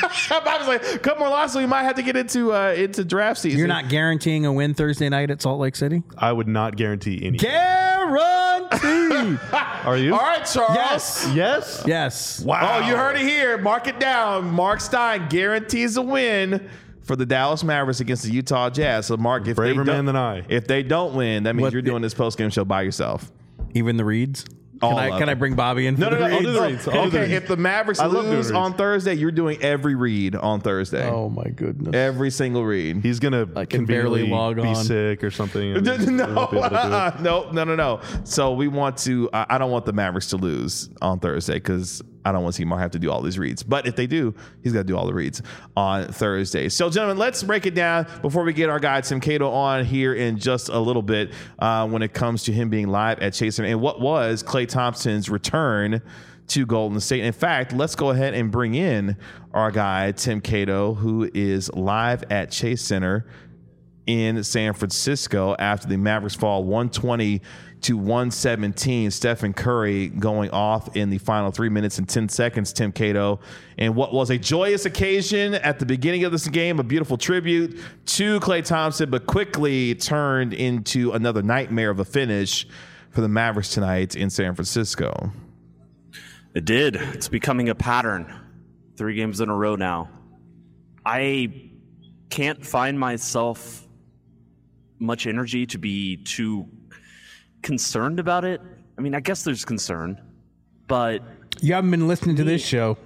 I was like, a couple more losses. We might have to get into uh, into draft season. You're not guaranteeing a win Thursday night at Salt Lake City? I would not guarantee any. Guaranteed guarantee. Are you? All right, Charles. Yes. Yes. Yes. Wow. Oh, you heard it here. Mark it down. Mark Stein guarantees a win for the Dallas Mavericks against the Utah Jazz. So, Mark, if Braver they man don't, than I. if they don't win, that means What you're the- doing this post-game show by yourself. Even the reads? All Can I, of can I them. bring Bobby in? No, for no, the no. I'll reads? do the reads. I'll do the Okay, reads. if the Mavericks I love doing lose reads. on Thursday, you're doing every read on Thursday. Oh my goodness. Every single read. He's gonna I can barely conveniently log be on. sick or something. and No, he won't be able to do it. uh-uh. no, no, no, no. So we want to. I I don't want the Mavericks to lose on Thursday because I don't want to see Mark have to do all these reads. But if they do, he's got to do all the reads on Thursday. So, gentlemen, let's break it down before we get our guy Tim Cato on here in just a little bit. Uh, when it comes to him being live at Chase Center and what was Klay Thompson's return to Golden State. In fact, let's go ahead and bring in our guy Tim Cato, who is live at Chase Center in San Francisco after the Mavericks fall one twenty to one seventeen. Stephen Curry going off in the final three minutes and ten seconds, Tim Cato. And what was a joyous occasion at the beginning of this game, a beautiful tribute to Klay Thompson, but quickly turned into another nightmare of a finish for the Mavericks tonight in San Francisco. It did. It's becoming a pattern. Three games in a row now. I can't find myself much energy to be too concerned about it. I mean, I guess there's concern, but You haven't been listening to this show.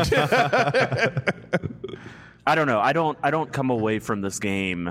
I don't know. I don't I don't come away from this game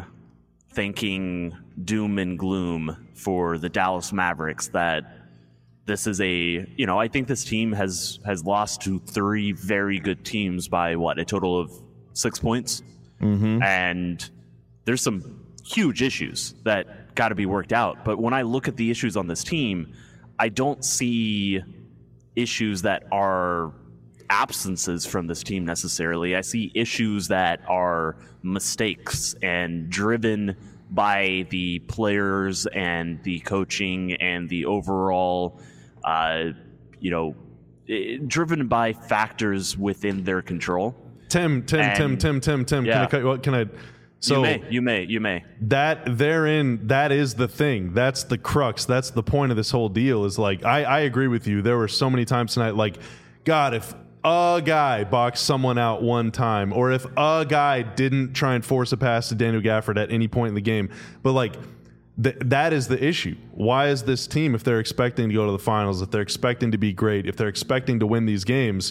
thinking doom and gloom for the Dallas Mavericks that this is a, you know, I think this team has has lost to three very good teams by what, a total of six points. Mm-hmm. And there's some huge issues that got to be worked out. But when I look at the issues on this team, I don't see issues that are absences from this team necessarily. I see issues that are mistakes and driven by the players and the coaching and the overall, uh, you know, eh, driven by factors within their control. Tim, Tim, And- Tim, Tim, Tim, Tim. Can I Yeah. cut you? What can I? So you may, you may, you may. that therein, that is the thing. That's the crux. That's the point of this whole deal. Is like I, I agree with you. There were so many times tonight. Like, God, if a guy boxed someone out one time, or if a guy didn't try and force a pass to Daniel Gafford at any point in the game, but like. Th- that is the issue. Why is this team, if they're expecting to go to the finals, if they're expecting to be great, if they're expecting to win these games,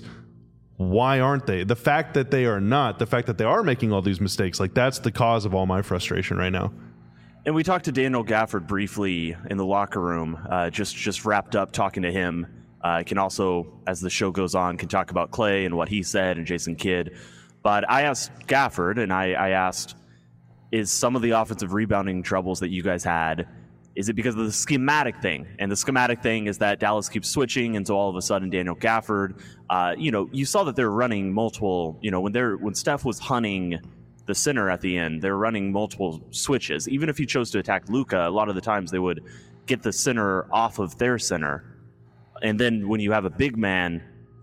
why aren't they? The fact that they are not, the fact that they are making all these mistakes, like that's the cause of all my frustration right now. And we talked to Daniel Gafford briefly in the locker room, uh, just just wrapped up talking to him. I uh, can also, as the show goes on, can talk about Klay and what he said and Jason Kidd. But I asked Gafford, and I, I asked, is some of the offensive rebounding troubles that you guys had, is it because of the schematic thing? And the schematic thing is that Dallas keeps switching, and so all of a sudden Daniel Gafford, uh, you know, you saw that they're running multiple, you know, when they're when Steph was hunting the center at the end, they're running multiple switches. Even if he chose to attack Luka, a lot of the times they would get the center off of their center. And then when you have a big man,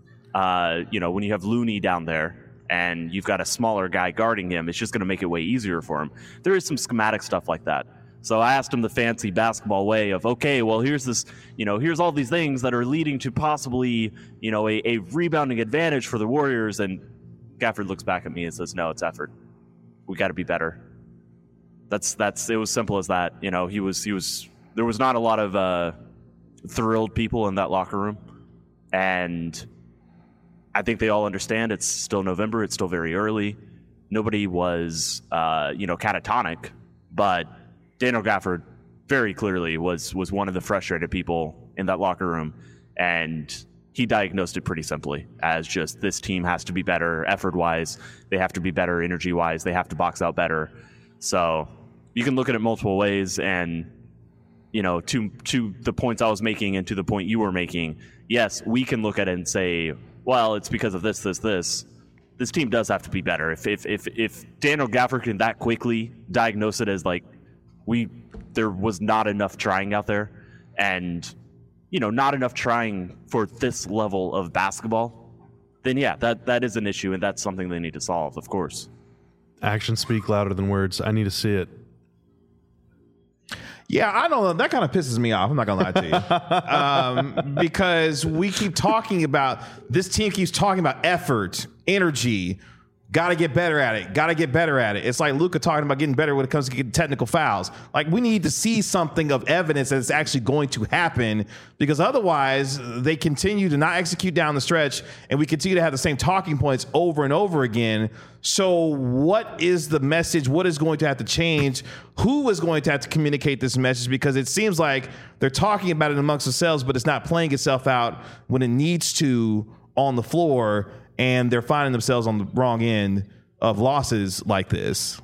uh, you know, when you have Looney down there, and you've got a smaller guy guarding him, it's just going to make it way easier for him. There is some schematic stuff like that. So I asked him the fancy basketball way of, okay, well, here's this, you know, here's all these things that are leading to possibly, you know, a, a rebounding advantage for the Warriors. And Gafford looks back at me and says, no, it's effort. We got to be better. That's, that's, it was simple as that. You know, he was, he was, there was not a lot of uh, thrilled people in that locker room. And I think they all understand it's still November. It's still very early. Nobody was, uh, you know, catatonic, but Daniel Gafford very clearly was was one of the frustrated people in that locker room, and he diagnosed it pretty simply as just this team has to be better effort-wise. They have to be better energy-wise. They have to box out better. So you can look at it multiple ways, and you know, to to the points I was making and to the point you were making, yes, we can look at it and say, well, it's because of this, this, this. This team does have to be better. If if if, if Daniel Gafford can that quickly diagnose it as like we there was not enough trying out there, and you know, not enough trying for this level of basketball, then yeah, that that is an issue, and that's something they need to solve, of course. Actions speak louder than words. I need to see it. Yeah, I don't know. That kind of pisses me off. I'm not going to lie to you. um, because we keep talking about, this team keeps talking about effort, energy, got to get better at it, got to get better at it. It's like Luka talking about getting better when it comes to getting technical fouls. Like, we need to see something of evidence that it's actually going to happen, because otherwise they continue to not execute down the stretch, and we continue to have the same talking points over and over again. So what is the message? What is going to have to change? Who is going to have to communicate this message? Because it seems like they're talking about it amongst themselves, but it's not playing itself out when it needs to on the floor, and they're finding themselves on the wrong end of losses like this.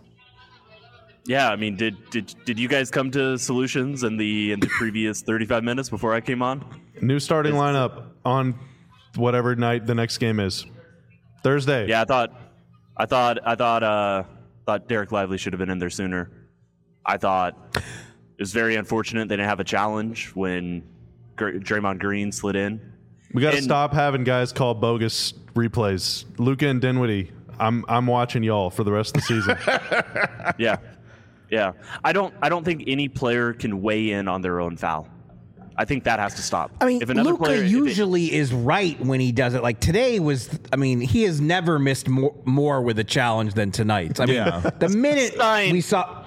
Yeah, I mean, did did did you guys come to solutions in the in the previous thirty-five minutes before I came on? New starting lineup on whatever night the next game is. Thursday. Yeah, I thought I thought I thought uh thought Derek Lively should have been in there sooner. I thought it was very unfortunate they didn't have a challenge when Gr- Draymond Green slid in. We got to And- stop having guys call bogus replays. Luka and Dinwiddie, I'm I'm watching y'all for the rest of the season. Yeah. Yeah. I don't I don't think any player can weigh in on their own foul. I think that has to stop. I mean, if another Luka player, if it- usually is right when he does it. Like today was, I mean, he has never missed more, more with a challenge than tonight. I mean, Yeah. the minute Stein. we saw,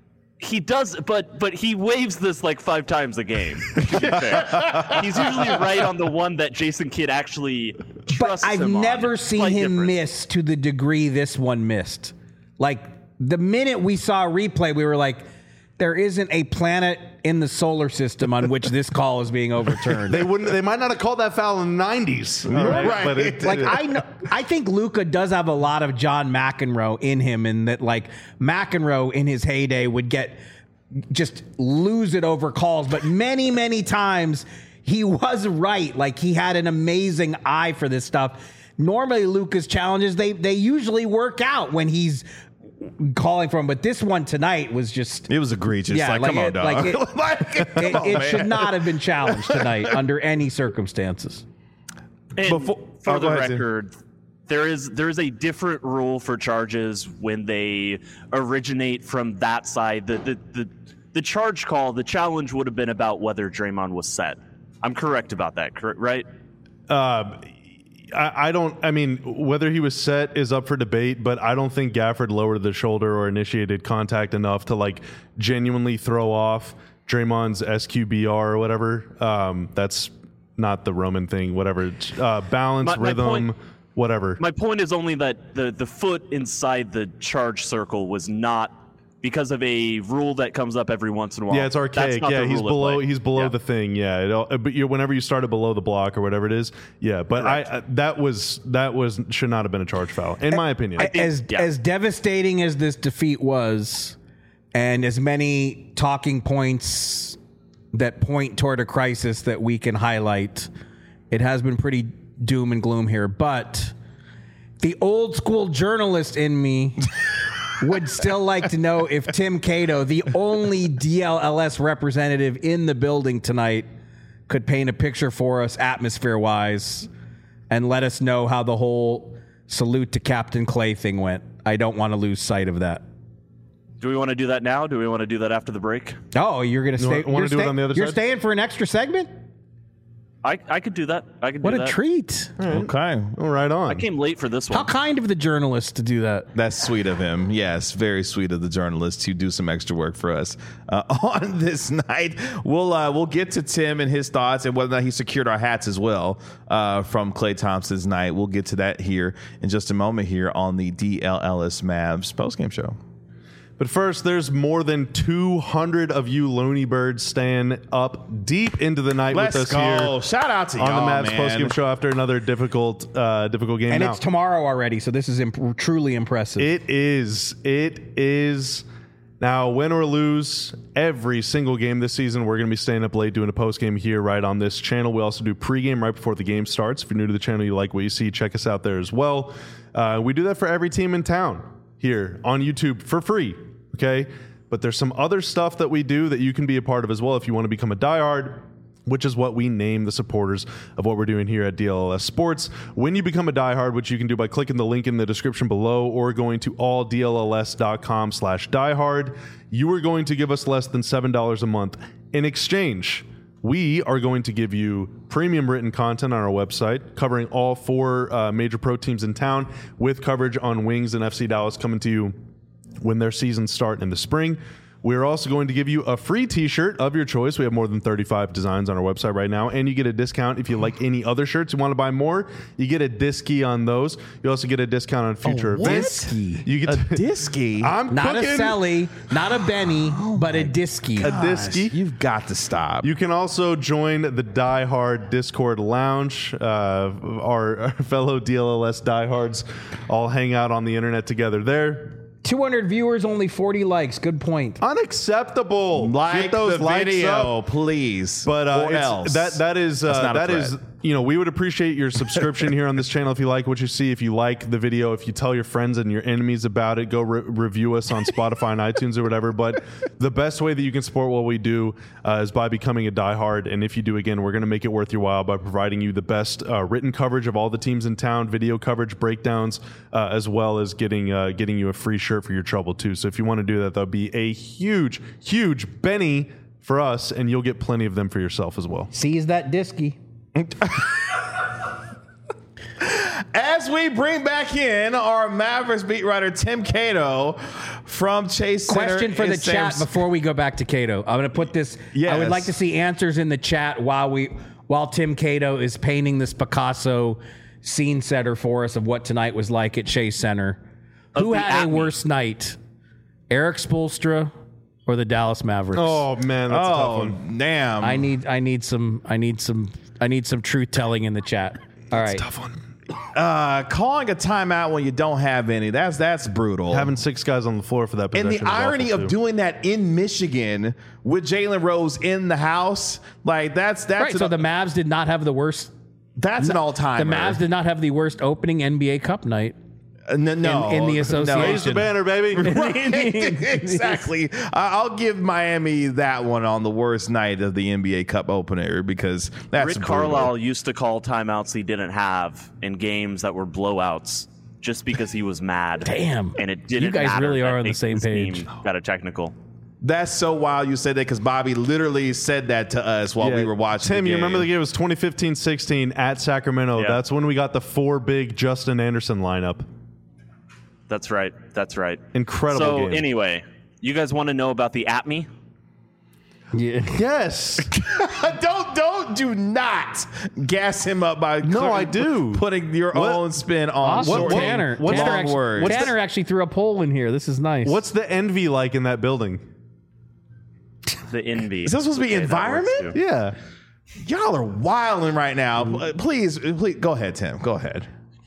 he does, but but he waves this like five times a game. To be fair. He's usually right on the one that Jason Kidd actually but trusts I've him on. never It's seen quite him different. miss to the degree this one missed. Like the minute we saw a replay, we were like, there isn't a planet in the solar system on which this call is being overturned. They wouldn't. They might not have called that foul in the nineties. Right. But it, Like it- I know, I think Luka does have a lot of John McEnroe in him, in that like McEnroe in his heyday would get just lose it over calls, but many many times he was right. Like he had an amazing eye for this stuff. Normally Luka's challenges they they usually work out when he's calling for him, but this one tonight was just It was egregious. Yeah, like, like come on, it- dog. like it- Like, come it, on, it man. should not have been challenged tonight under any circumstances. And Before- for oh, the go ahead, Tim. record, there is there is a different rule for charges when they originate from that side. The the the, the charge call, the challenge would have been about whether Draymond was set. I'm correct about that, correct? Right? Uh, I, I don't. I mean, whether he was set is up for debate, but I don't think Gafford lowered the shoulder or initiated contact enough to like genuinely throw off Draymond's S Q B R or whatever. Um, that's not the Roman thing. Whatever. Uh, balance, My- my rhythm, point- whatever. My point is only that the the foot inside the charge circle was not because of a rule that comes up every once in a while. Yeah, it's That's archaic. not Yeah, the he's rule at below. play. He's below Yeah. the thing. Yeah, it all, but you whenever you started below the block or whatever it is. Yeah, but I, I that was that was should not have been a charge foul in my opinion. as yeah. as devastating as this defeat was, and as many talking points that point toward a crisis that we can highlight, it has been pretty doom and gloom here. But the old school journalist in me would still like to know if Tim Cato, the only D L L S representative in the building tonight, could paint a picture for us atmosphere-wise and let us know how the whole salute to Captain Clay thing went. I don't want to lose sight of that. Do we want to do that now? Do we want to do that after the break? Oh, you're going to stay? want- wanna you're do it stay- on the other You're side? staying for an extra segment? I, I could do that. I could What do a that. treat. Okay. Oh, right on. I came late for this one. How kind of the journalist to do that. That's sweet of him. Yes, very sweet of the journalist to do some extra work for us uh, on this night. We'll uh, we'll get to Tim and his thoughts and whether or not he secured our hats as well uh, from Klay Thompson's night. We'll get to that here in just a moment here on the D L L S Mavs postgame show. But first, there's more than two hundred of you Looney Birds staying up deep into the night Let's with us go. here Shout out to on y'all, the Mavs man. postgame show after another difficult, uh, difficult game. And Now, it's tomorrow already, so this is imp- truly impressive. It is. It is. Now, win or lose, every single game this season, we're going to be staying up late doing a post game here right on this channel. We also do pregame right before the game starts. If you're new to the channel, you like what you see, check us out there as well. Uh, we do that for every team in town here on YouTube for free. Okay. But there's some other stuff that we do that you can be a part of as well if you want to become a diehard. which is what we name the supporters of what we're doing here at D L L S Sports. When you become a diehard, which you can do by clicking the link in the description below or going to all D L L S dot com slash diehard, you are going to give us less than seven dollars a month. In exchange, we are going to give you premium written content on our website covering all four uh, major pro teams in town, with coverage on Wings and F C Dallas coming to you when their seasons start in the spring. We're also going to give you a free t-shirt of your choice. We have more than thirty-five designs on our website right now, and you get a discount if you like any other shirts. You want to buy more, you get a disky on those. You also get a discount on future what? events. You get A disky? I'm Not cooking. a Sally, not a Benny, but a Disky. A disky. You've got to stop. You can also join the Die Hard Discord Lounge. Uh, our, our fellow D L L S diehards all hang out on the internet together there. two hundred viewers, only forty likes. Good point. Unacceptable. like Get those the likes video, up. please. But uh, or it's- else. that that is uh, not a that is threat. you know, we would appreciate your subscription here on this channel if you like what you see. If you like the video, if you tell your friends and your enemies about it, go re- review us on Spotify and iTunes or whatever. But the best way that you can support what we do uh, is by becoming a diehard. And if you do, again, we're going to make it worth your while by providing you the best uh, written coverage of all the teams in town, video coverage, breakdowns, uh, as well as getting uh, getting you a free shirt for your trouble too. So if you want to do that, that'll be a huge, huge Benny for us, and you'll get plenty of them for yourself as well. Seize that Disky. As we bring back in our Mavericks beat writer, Tim Cato from Chase Center. Question for in the San chat Francisco. before we go back to Cato. I'm going to put this. I Yes. would like to see answers in the chat while we while Tim Cato is painting this Picasso scene setter for us of what tonight was like at Chase Center. Who the had a Atme. worse night, Eric Spoelstra or the Dallas Mavericks? Oh man, that's a tough Oh, one. damn. I need I need some I need some I need some truth telling in the chat. All right. Tough one. uh, calling a timeout when you don't have any. That's that's brutal. Having six guys on the floor for that possession. And the is irony awful, of too. doing that in Michigan with Jalen Rose in the house, like that's that's Right, an, so the Mavs did not have the worst. that's an all The time. Mavs did not have the worst opening N B A Cup night. no, no, in the no. association. Raise the banner, baby. Right, exactly. I- I'll give Miami that one on the worst night of the N B A Cup opener because that's Rick brutal. Carlisle used to call timeouts he didn't have in games that were blowouts just because he was mad. Damn. And it didn't You guys matter really that are on the Nathan's same page. team Got a technical. That's so wild you said that because Bobby literally said that to us while Yeah. we were watching. Tim, the you game. remember the game? It was twenty fifteen sixteen at Sacramento. Yeah. That's when we got the four big Justin Anderson lineup. That's right. That's right. Incredible So game. anyway, you guys want to know about the Atme? Yeah. Yes. don't don't do not gas him up by No, I do. putting your What? own spin on Awesome. shortening Tanner. what's Tanner, long actually, words. Tanner actually threw a poll in here. This is nice. What's the envy like in that building? The envy. Is this supposed to be Okay, that works environment? too. Yeah. Y'all are wilding right now. Pl- Please, please go ahead, Tim. Go ahead.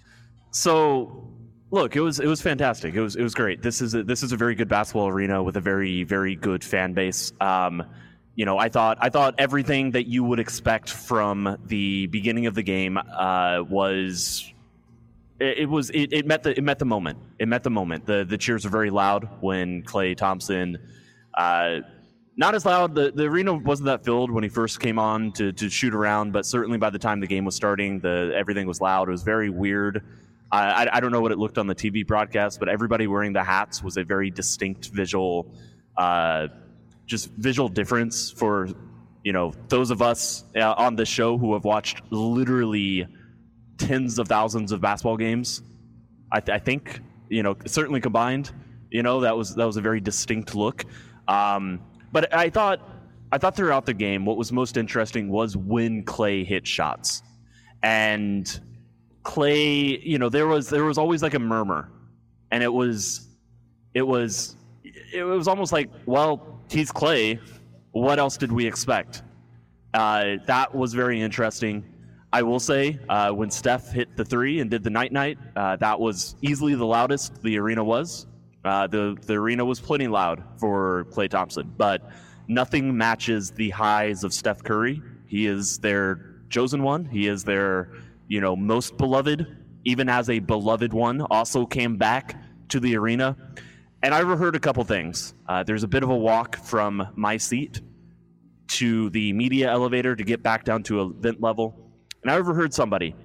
So, look, it was it was fantastic. It was it was great. This is a, this is a very good basketball arena with a very very good fan base. Um, you know, I thought I thought everything that you would expect from the beginning of the game uh, was. It, it was it, it met the it met the moment. It met the moment. The the cheers were very loud when Klay Thompson. Uh, Not as loud. The, the arena wasn't that filled when he first came on to, to shoot around, but certainly by the time the game was starting, the everything was loud. It was very weird. I, I, I don't know what it looked on the T V broadcast, but everybody wearing the hats was a very distinct visual, uh, just visual difference for, you know, those of us uh, on this show who have watched literally tens of thousands of basketball games. I, th- I think, you know, certainly combined, you know, that was that was a very distinct look. Um, But I thought, I thought throughout the game, what was most interesting was when Klay hit shots, and Klay, you know, there was there was always like a murmur, and it was, it was, it was almost like, well, he's Klay. What else did we expect? Uh, that was very interesting. I will say, uh, when Steph hit the three and did the night night, uh, that was easily the loudest the arena was. Uh, the the arena was plenty loud for Klay Thompson, but nothing matches the highs of Steph Curry. He is their chosen one. He is their, you know, most beloved. Even as a beloved one, also came back to the arena. And I overheard a couple things. Uh, there's a bit of a walk from my seat to the media elevator to get back down to event level, and I overheard somebody,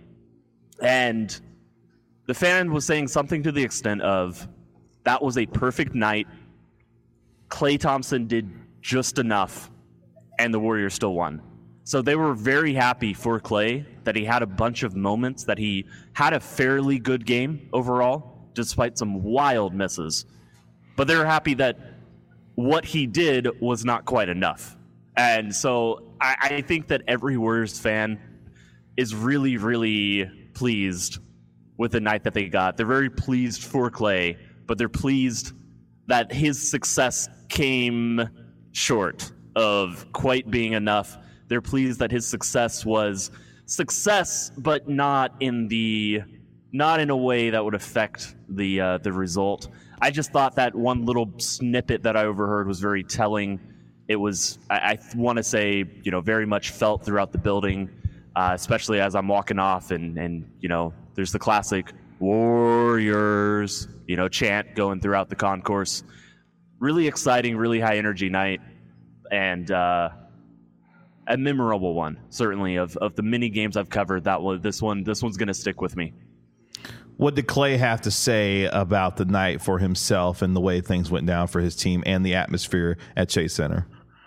and the fan was saying something to the extent of, that was a perfect night. Klay Thompson did just enough, and the Warriors still won. So they were very happy for Klay that he had a bunch of moments, that he had a fairly good game overall, despite some wild misses. But they were happy that what he did was not quite enough. And so I, I think that every Warriors fan is really, really pleased with the night that they got. They're very pleased for Klay, but they're pleased that his success came short of quite being enough. They're pleased that his success was success, but not in the not in a way that would affect the uh, the result. I just thought that one little snippet that I overheard was very telling. It was, I, I want to say, you know, very much felt throughout the building, uh, especially as I'm walking off, and and you know, there's the classic Warriors, you know, chant going throughout the concourse. Really exciting, really high energy night, and uh, a memorable one, certainly of of the many games I've covered. That was this one. This one's going to stick with me. What did Klay have to say about the night for himself and the way things went down for his team and the atmosphere at Chase Center?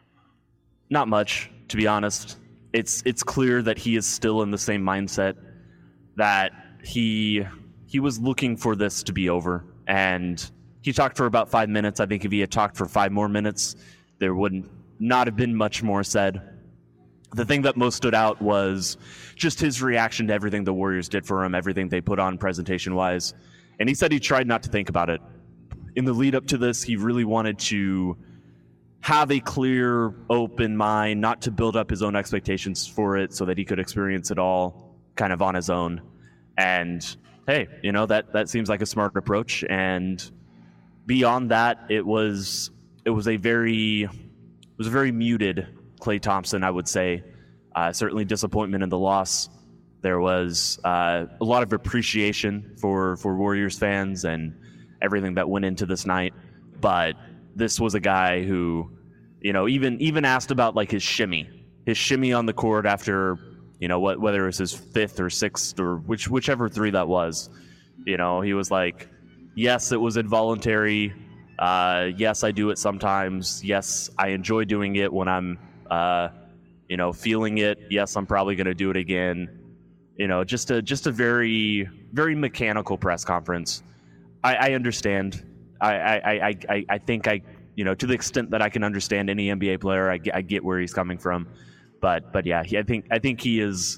Not much, to be honest. It's it's clear that he is still in the same mindset, that he he was looking for this to be over, and he talked for about five minutes. I think if he had talked for five more minutes, there would not have been much more said. The thing that most stood out was just his reaction to everything the Warriors did for him, everything they put on presentation-wise. And he said he tried not to think about it. In the lead up to this, he really wanted to have a clear, open mind, not to build up his own expectations for it so that he could experience it all kind of on his own. And, hey, you know, that, that seems like a smart approach. And beyond that, it was it was a very it was a very muted Klay Thompson, I would say. Uh, certainly disappointment in the loss. There was uh, a lot of appreciation for, for Warriors fans and everything that went into this night. But this was a guy who, you know, even even asked about like his shimmy, his shimmy on the court after, you know, what whether it was his fifth or sixth or which whichever three that was. You know, he was like, yes, it was involuntary. Uh, yes, I do it sometimes. Yes, I enjoy doing it when I'm Uh, you know, feeling it. Yes, I'm probably going to do it again. You know, just a just a very very mechanical press conference. I, I understand. I, I I I I think I you know to the extent that I can understand any N B A player, I get, I get where he's coming from. But but yeah, he, I think I think he is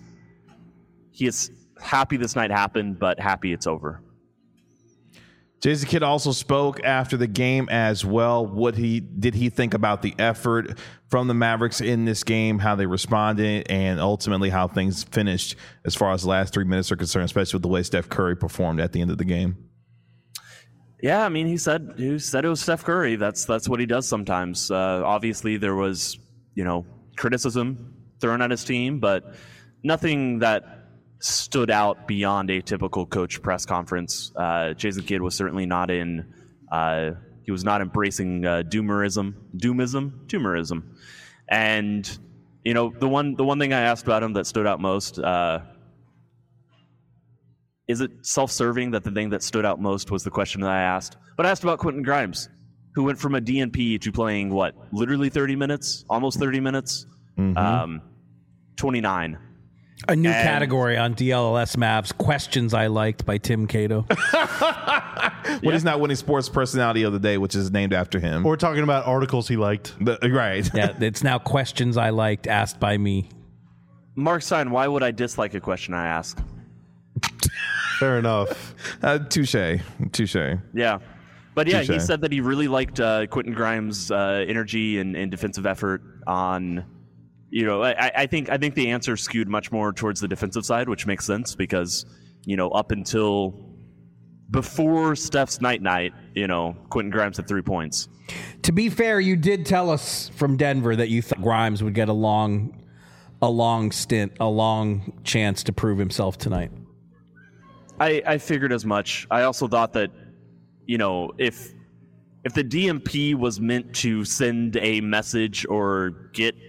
he is happy this night happened, but happy it's over. Jason Kidd also spoke after the game as well. What he did he think about the effort from the Mavericks in this game, how they responded, and ultimately how things finished as far as the last three minutes are concerned, especially with the way Steph Curry performed at the end of the game. Yeah, I mean, he said he said it was Steph Curry. That's that's what he does sometimes. Uh, obviously, there was you know criticism thrown at his team, but nothing that stood out beyond a typical coach press conference. Uh, Jason Kidd was certainly not in. Uh, he was not embracing uh, doomerism, doomism, doomerism, and you know the one the one thing I asked about him that stood out most. Uh, is it self-serving that the thing that stood out most was the question that I asked? But I asked about Quentin Grimes, who went from a D N P to playing what, literally thirty minutes, almost thirty minutes, mm-hmm. um, twenty-nine. A new and category on D L L S Mavs, questions I liked by Tim Cato. When yeah. he's not winning sports personality of the day, which is named after him. We're talking about articles he liked. The, right. Yeah, it's now questions I liked asked by me. Mark Stein, why would I dislike a question I ask? Fair enough. Uh, touche. Touche. Yeah. But yeah, Touché. He said that he really liked uh, Quentin Grimes' uh, energy and, and defensive effort on... You know, I, I think I think the answer skewed much more towards the defensive side, which makes sense because, you know, up until before Steph's night night, you know, Quentin Grimes had three points. To be fair, you did tell us from Denver that you thought Grimes would get a long, a long stint, a long chance to prove himself tonight. I, I figured as much. I also thought that, you know, if if the D M P was meant to send a message or get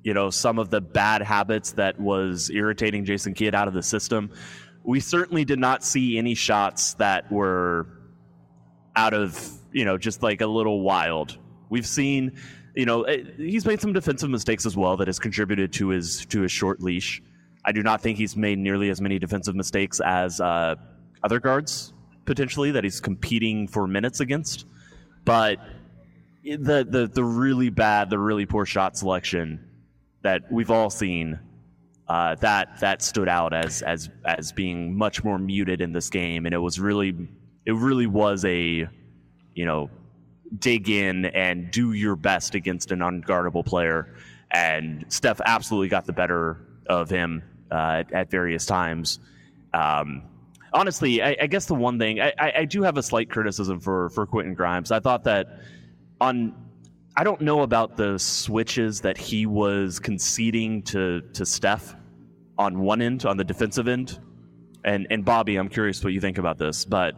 you know, some of the bad habits that was irritating Jason Kidd out of the system. We certainly did not see any shots that were out of, you know, just like a little wild. We've seen, you know, he's made some defensive mistakes as well that has contributed to his to his short leash. I do not think he's made nearly as many defensive mistakes as uh, other guards, potentially, that he's competing for minutes against. But the the the really bad, the really poor shot selection that we've all seen, uh, that that stood out as as as being much more muted in this game, and it was really it really was a, you know, dig in and do your best against an unguardable player, and Steph absolutely got the better of him uh, at, at various times. Um, honestly, I, I guess the one thing I, I do have a slight criticism for for Quentin Grimes. I thought that on. I don't know about the switches that he was conceding to, to Steph on one end, on the defensive end. And and Bobby, I'm curious what you think about this, but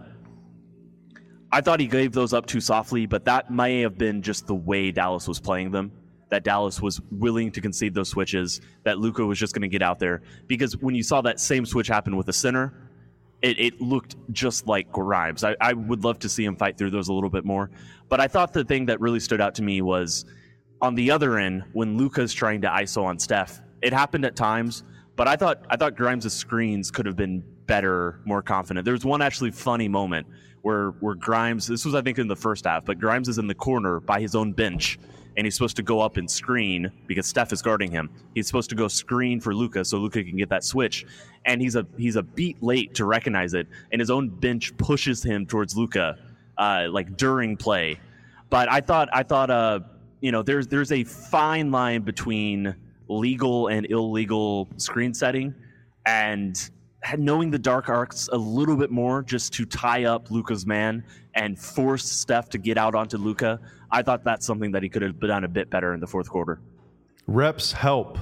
I thought he gave those up too softly, but that may have been just the way Dallas was playing them, that Dallas was willing to concede those switches, that Luka was just going to get out there. Because when you saw that same switch happen with the center, It, it looked just like Grimes. I, I would love to see him fight through those a little bit more. But I thought the thing that really stood out to me was on the other end, when Luka's trying to I S O on Steph, it happened at times, but I thought I thought Grimes' screens could have been better, more confident. There was one actually funny moment where, where Grimes, this was I think in the first half, but Grimes is in the corner by his own bench, and he's supposed to go up and screen because Steph is guarding him. He's supposed to go screen for Luka so Luka can get that switch. And he's a he's a beat late to recognize it, and his own bench pushes him towards Luka, uh, like during play. But I thought I thought uh you know there's there's a fine line between legal and illegal screen setting, and knowing the dark arcs a little bit more just to tie up Luka's man and force Steph to get out onto Luka. I thought that's something that he could have done a bit better in the fourth quarter. Reps help.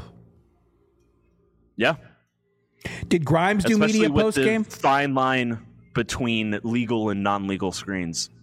Yeah. Did Grimes do Especially media with post the game? fine line between legal and non-legal screens.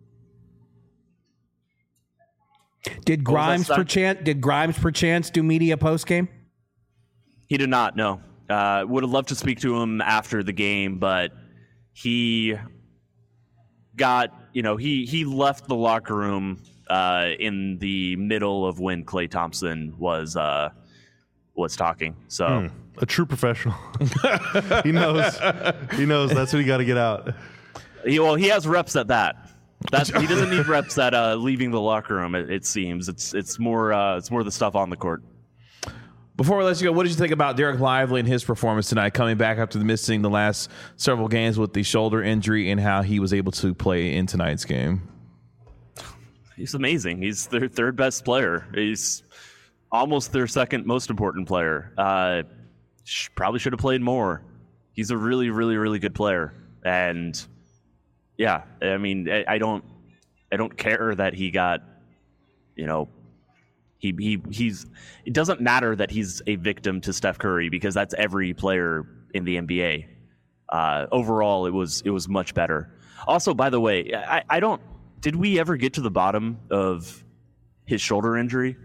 Did Grimes that, perchance did Grimes perchance do media post game? He did not. No. Uh, would have loved to speak to him after the game, but he got you know he he left the locker room uh, in the middle of when Klay Thompson was uh, was talking. So. Hmm. A true professional. he knows. He knows that's what you got to get out. He, well, he has reps at that. That's, he doesn't need reps at uh, leaving the locker room. It, it seems it's it's more uh, it's more the stuff on the court. Before we let you go, what did you think about Derek Lively and his performance tonight, coming back after missing the last several games with the shoulder injury, and how he was able to play in tonight's game? He's amazing. He's their third best player. He's almost their second most important player. Uh, Probably should have played more. He's a really, really, really good player, and yeah, I mean, I, I don't, I don't care that he got, you know, he he he's. It doesn't matter that he's a victim to Steph Curry because that's every player in the N B A. Uh, overall, it was it was much better. Also, by the way, I, I don't. Did we ever get to the bottom of his shoulder injury?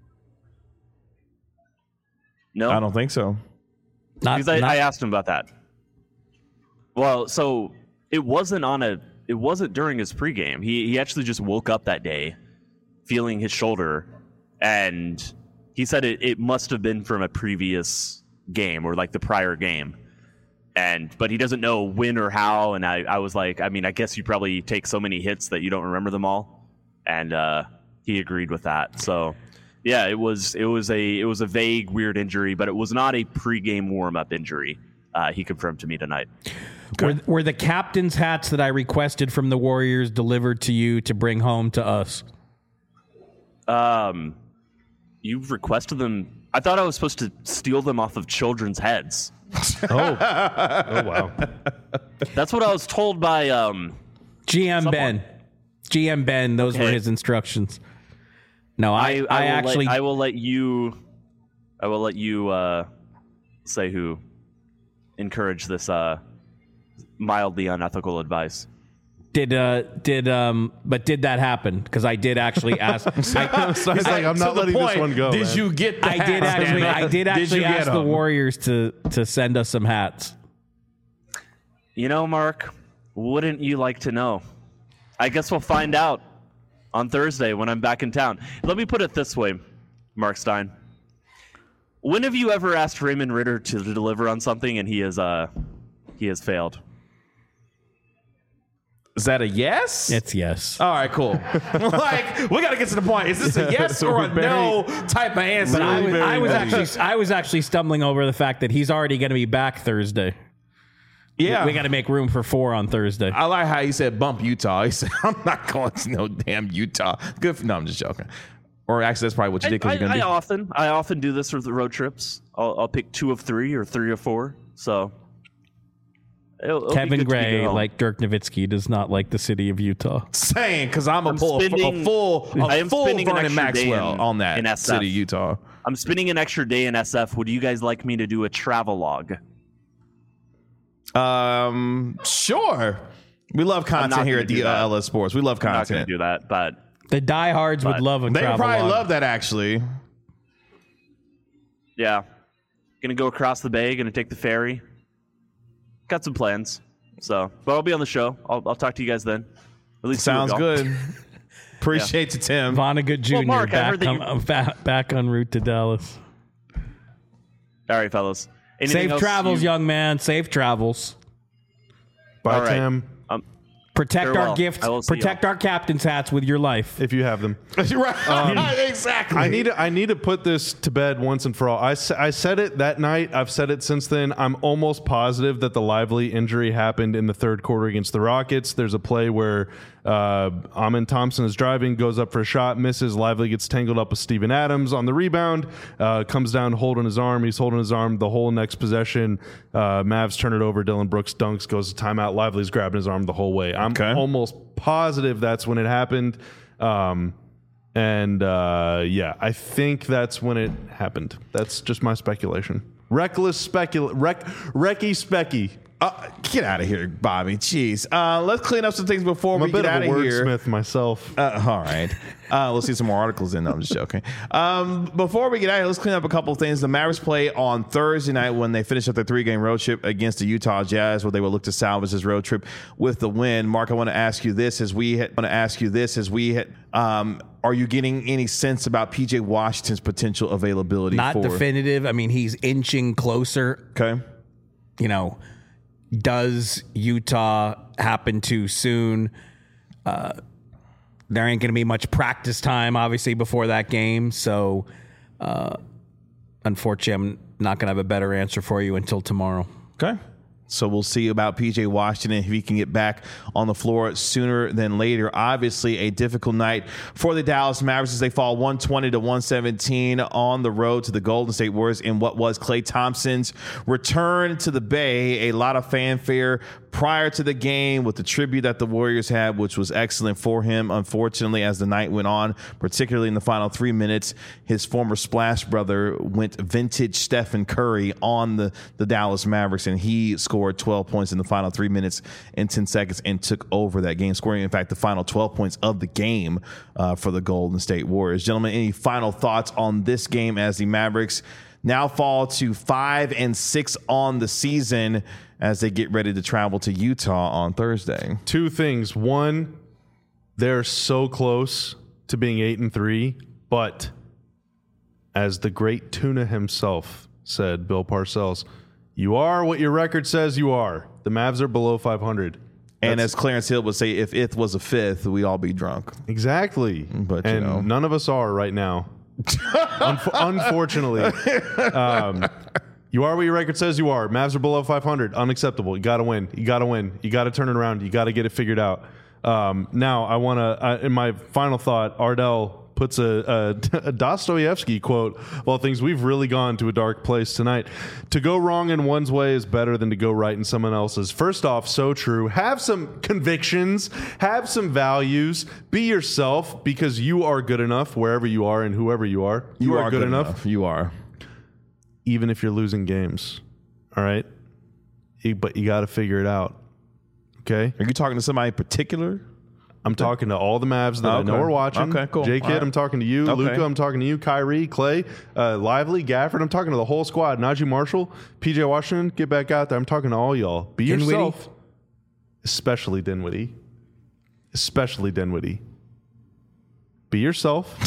No, I don't think so. Not, because I, not, I asked him about that. Well, so it wasn't on a. It wasn't during his pregame. He he actually just woke up that day, feeling his shoulder, and he said it, it must have been from a previous game or like the prior game, and but he doesn't know when or how. And I, I was like, I mean, I guess you probably take so many hits that you don't remember them all, and uh, he agreed with that. So. Yeah, it was it was a it was a vague, weird injury, but it was not a pregame warm-up injury. Uh, he confirmed to me tonight. were, were the captain's hats that I requested from the Warriors delivered to you to bring home to us? Um, you requested them. I thought I was supposed to steal them off of children's heads. Oh, oh wow! That's what I was told by um, G M someone. Ben. G M Ben. Those Okay. were his instructions. No, I, I, I, I will actually. let, I will let you. I will let you uh, say who encouraged this uh, mildly unethical advice. Did uh did um but did that happen? Because I did actually ask. I, So I was like, I'm To not the letting point, this one go. Did man. you get the I did hats, actually. damn it? I did you actually get ask the them? Warriors to to send us some hats. You know, Mark, wouldn't you like to know? I guess we'll find out on Thursday when I'm back in town. Let me put it this way, Mark Stein. When have you ever asked Raymond Ritter to deliver on something and he has uh he has failed? Is that a yes? It's yes. All right, cool. Like, we got to get to the point. Is this a yes or a Very- no type of answer? But I was, very I was vague. actually I was actually stumbling over the fact that he's already going to be back Thursday. yeah. We got to make room for four on Thursday. I like how he said bump Utah. He said, I'm not going to no damn Utah. Good. For, no, I'm just joking. Or actually, that's probably what you did I, because you're I going to do. often I often do this with the road trips. I'll, I'll pick two of three or three of four. So it'll, it'll be Kevin good to be Gray, home. like Dirk Nowitzki, does not like the city of Utah. Saying because I'm a I'm pull a spending- full, a I am full spending an Vernon extra day Maxwell in- on that in S F. city, Utah. I'm spending an extra day in S F. Would you guys like me to do a travel log? Um, sure. We love not content here gonna at do D that. L S Sports. We love I'm not going content. to do that, but The diehards would But love a They travel probably log. love that actually. yeah, gonna go across the bay. Gonna take the ferry. Got some plans. So, but I'll be on the show. I'll, I'll talk to you guys then. At least two of Sounds y'all. good. Appreciate you, Tim. Vonnegut Junior Mark, I heard back, that on, uh, back, back en route to Dallas. All right, fellas. Anything Safe else travels, you- young man. Safe travels. Bye, All right. Tim, Um, Protect Farewell. our gifts. I will see Protect y'all. our captain's hats with your life. if you have them. right. exactly. I need to, I need to put this to bed once and for all. I, s- I said it that night. I've said it since then. I'm almost positive that the Lively injury happened in the third quarter against the Rockets. There's a play where uh, Amin Thompson is driving, goes up for a shot, misses. Lively gets tangled up with Steven Adams on the rebound, uh, comes down holding his arm. He's holding his arm the whole next possession. Uh, Mavs turn it over. Dylan Brooks dunks, goes to timeout. Lively's grabbing his arm the whole way. I'm Okay. almost positive that's when it happened. Um, and uh, yeah, I think that's when it happened. That's just my speculation. Reckless specula, rec, recky specky. Uh, get out of here, Bobby. Jeez. Uh, let's clean up some things before I'm we a bit get out of a of here. wordsmith myself. Uh, all right. Uh, let's see some more articles in. No, I'm just joking. Um, before we get out of here, let's clean up a couple of things. The Mavericks play on Thursday night when they finish up their three-game road trip against the Utah Jazz, where they will look to salvage this road trip with the win. Mark, I want to ask you this as we want to ask you this as we hit, um, are you getting any sense about P J Washington's potential availability? Not for definitive. I mean, he's inching closer. Okay. You know, does Utah happen too soon? Uh, there ain't going to be much practice time, obviously, before that game. So, uh, unfortunately, I'm not going to have a better answer for you until tomorrow. Okay. So we'll see about P J Washington if he can get back on the floor sooner than later. Obviously, a difficult night for the Dallas Mavericks as they fall one twenty to one seventeen on the road to the Golden State Warriors in what was Klay Thompson's return to the Bay. A lot of fanfare prior to the game with the tribute that the Warriors had, which was excellent for him. Unfortunately, as the night went on, particularly in the final three minutes, his former Splash brother went vintage Stephen Curry on the, the Dallas Mavericks, and he scored twelve points in the final three minutes and ten seconds and took over that game, scoring, in fact, the final twelve points of the game uh, for the Golden State Warriors. Gentlemen, any final thoughts on this game as the Mavericks now fall to five and six on the season as they get ready to travel to Utah on Thursday? Two things. One, they're so close to being eight and three, but as the great Tuna himself said, Bill Parcells, you are what your record says you are. The Mavs are below five hundred. And That's- as Clarence Hill would say, if it was a fifth, we'd all be drunk. Exactly. But, you and know. none of us are right now. Unf- unfortunately. Um, you are what your record says you are. Mavs are below five hundred. Unacceptable. You got to win. You got to win. You got to turn it around. You got to get it figured out. Um, now, I want to, uh, in my final thought, Ardell puts a, a, a Dostoevsky quote, well, things we've really gone to a dark place tonight. To go wrong in one's way is better than to go right in someone else's. First off, so true. Have some convictions, have some values, be yourself, because you are good enough wherever you are and whoever you are. You, are, good, enough, You are. even if you're losing games. All right? You- But you got to figure it out. Okay. Are you talking to somebody in particular? I'm talking to all the Mavs that Okay. I know are watching. Okay, cool. J Kid, All right. I'm talking to you. Okay. Luka, I'm talking to you. Kyrie, Clay, uh, Lively, Gafford. I'm talking to the whole squad. Najee Marshall, P J Washington, get back out there. I'm talking to all y'all. Be Dinwiddie? yourself. Especially Dinwiddie. Especially Dinwiddie. Be yourself.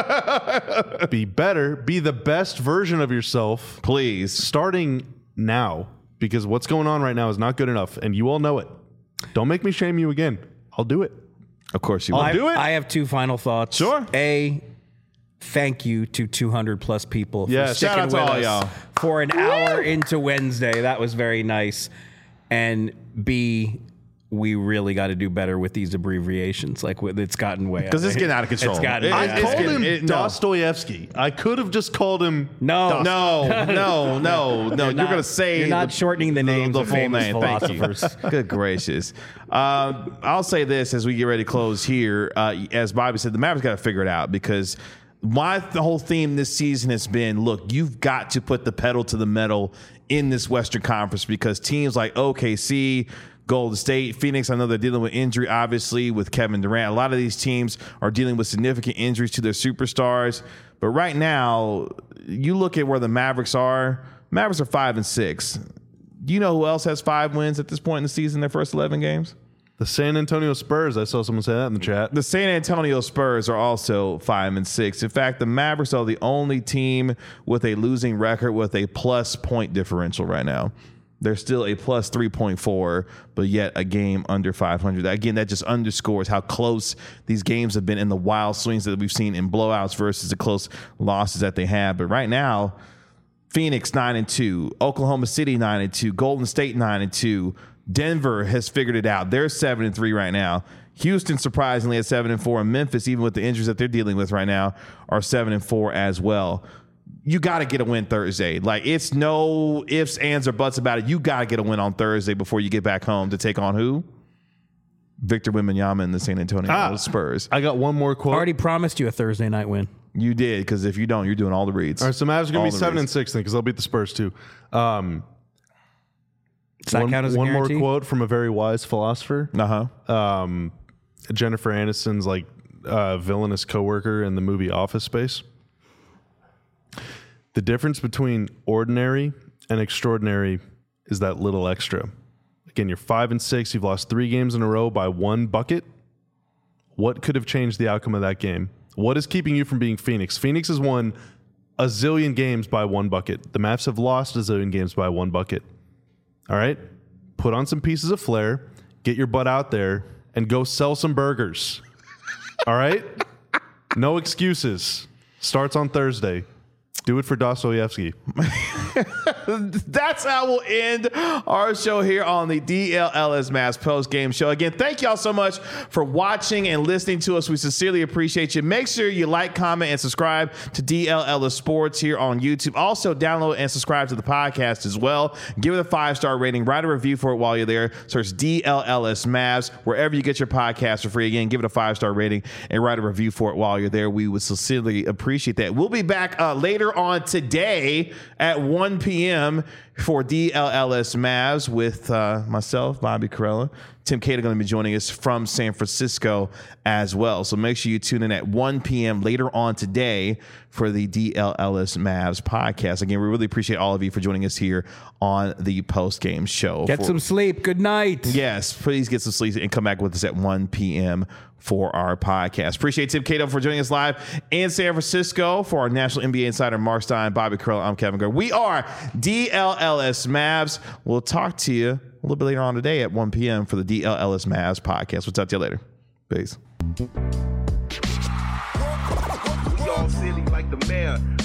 Be better. Be the best version of yourself. Please. Starting now. Because what's going on right now is not good enough. And you all know it. Don't make me shame you again. I'll do it. Of course you I'll will. have, do it. I have two final thoughts. Sure. A, thank you to two hundred plus people for Yes. sticking Shout out to with all us y'all. for an hour into Wednesday. That was very nice. And B, we really got to do better with these abbreviations. Like it's gotten way Because it's getting out of control. It's gotten It- way it's out I of called getting- him it- no. Dostoevsky. I could have just called him. No. No, no, no, no. You're, not- going to say you're not shortening the names of famous philosophers. Thank you. Good gracious. Um, I'll say this as we get ready to close here. Uh, as Bobby said, the Mavericks got to figure it out because my the whole theme this season has been, look, you've got to put the pedal to the metal in this Western Conference because teams like O K C, Golden State, Phoenix, I know they're dealing with injury, obviously, with Kevin Durant. A lot of these teams are dealing with significant injuries to their superstars. But right now, you look at where the Mavericks are. Mavericks are five and six. Do you know who else has five wins at this point in the season, their first eleven games? The San Antonio Spurs. I saw someone say that in the chat. The San Antonio Spurs are also five and six. In fact, the Mavericks are the only team with a losing record with a plus point differential right now. They're still a plus three point four, but yet a game under five hundred. Again, that just underscores how close these games have been in the wild swings that we've seen in blowouts versus the close losses that they have. But right now, Phoenix nine and two, Oklahoma City nine and two, Golden State nine and two, Denver has figured it out. They're seven and three right now. Houston surprisingly at seven and four, and Memphis, even with the injuries that they're dealing with right now, are seven and four as well. You got to get a win Thursday. Like, it's no ifs, ands, or buts about it. You got to get a win on Thursday before you get back home to take on who? Victor Wembanyama and the San Antonio Ah. Spurs. I got one more quote. Already promised you a Thursday night win. You did, because if you don't, you're doing all the reads. All right, so Mavs are going All to be the seven reads. and six then because they'll beat the Spurs too. Um, Does that one count as a one more guarantee? quote from a very wise philosopher. Uh-huh. Um, Jennifer Aniston's like uh, villainous coworker in the movie Office Space. The difference between ordinary and extraordinary is that little extra. Again, you're five and six. You've lost three games in a row by one bucket. What could have changed the outcome of that game? What is keeping you from being Phoenix? Phoenix has won a zillion games by one bucket. The Mavs have lost a zillion games by one bucket. All right? Put on some pieces of flair, get your butt out there, and go sell some burgers. All right? No excuses. Starts on Thursday. Do it for Dostoevsky. That's how we'll end our show here on the D L L S Mavs post game show. Again, thank y'all so much for watching and listening to us. We sincerely appreciate you. Make sure you like, comment, and subscribe to D L L S Sports here on YouTube. Also, download and subscribe to the podcast as well. Give it a five-star rating. Write a review for it while you're there. Search D L L S Mavs wherever you get your podcast for free. Again, give it a five-star rating and write a review for it while you're there. We would sincerely appreciate that. We'll be back uh, later on today at one p.m. for D L L S Mavs with uh, myself, Bobby Carella. Tim Cato going to be joining us from San Francisco as well. So make sure you tune in at one p.m. later on today for the D L L S Mavs podcast. Again, we really appreciate all of you for joining us here on the post-game show. Get For- some sleep. Good night. Yes, please get some sleep and come back with us at one p.m. for our podcast. Appreciate Tim Cato for joining us live in San Francisco for our National N B A Insider, Mark Stein, Bobby Carell. I'm Kevin Gray. We are D L L S Mavs. We'll talk to you a little bit later on today at one p.m. for the D L L S Mavs podcast. We'll talk to you later. Peace. We all silly like the mayor.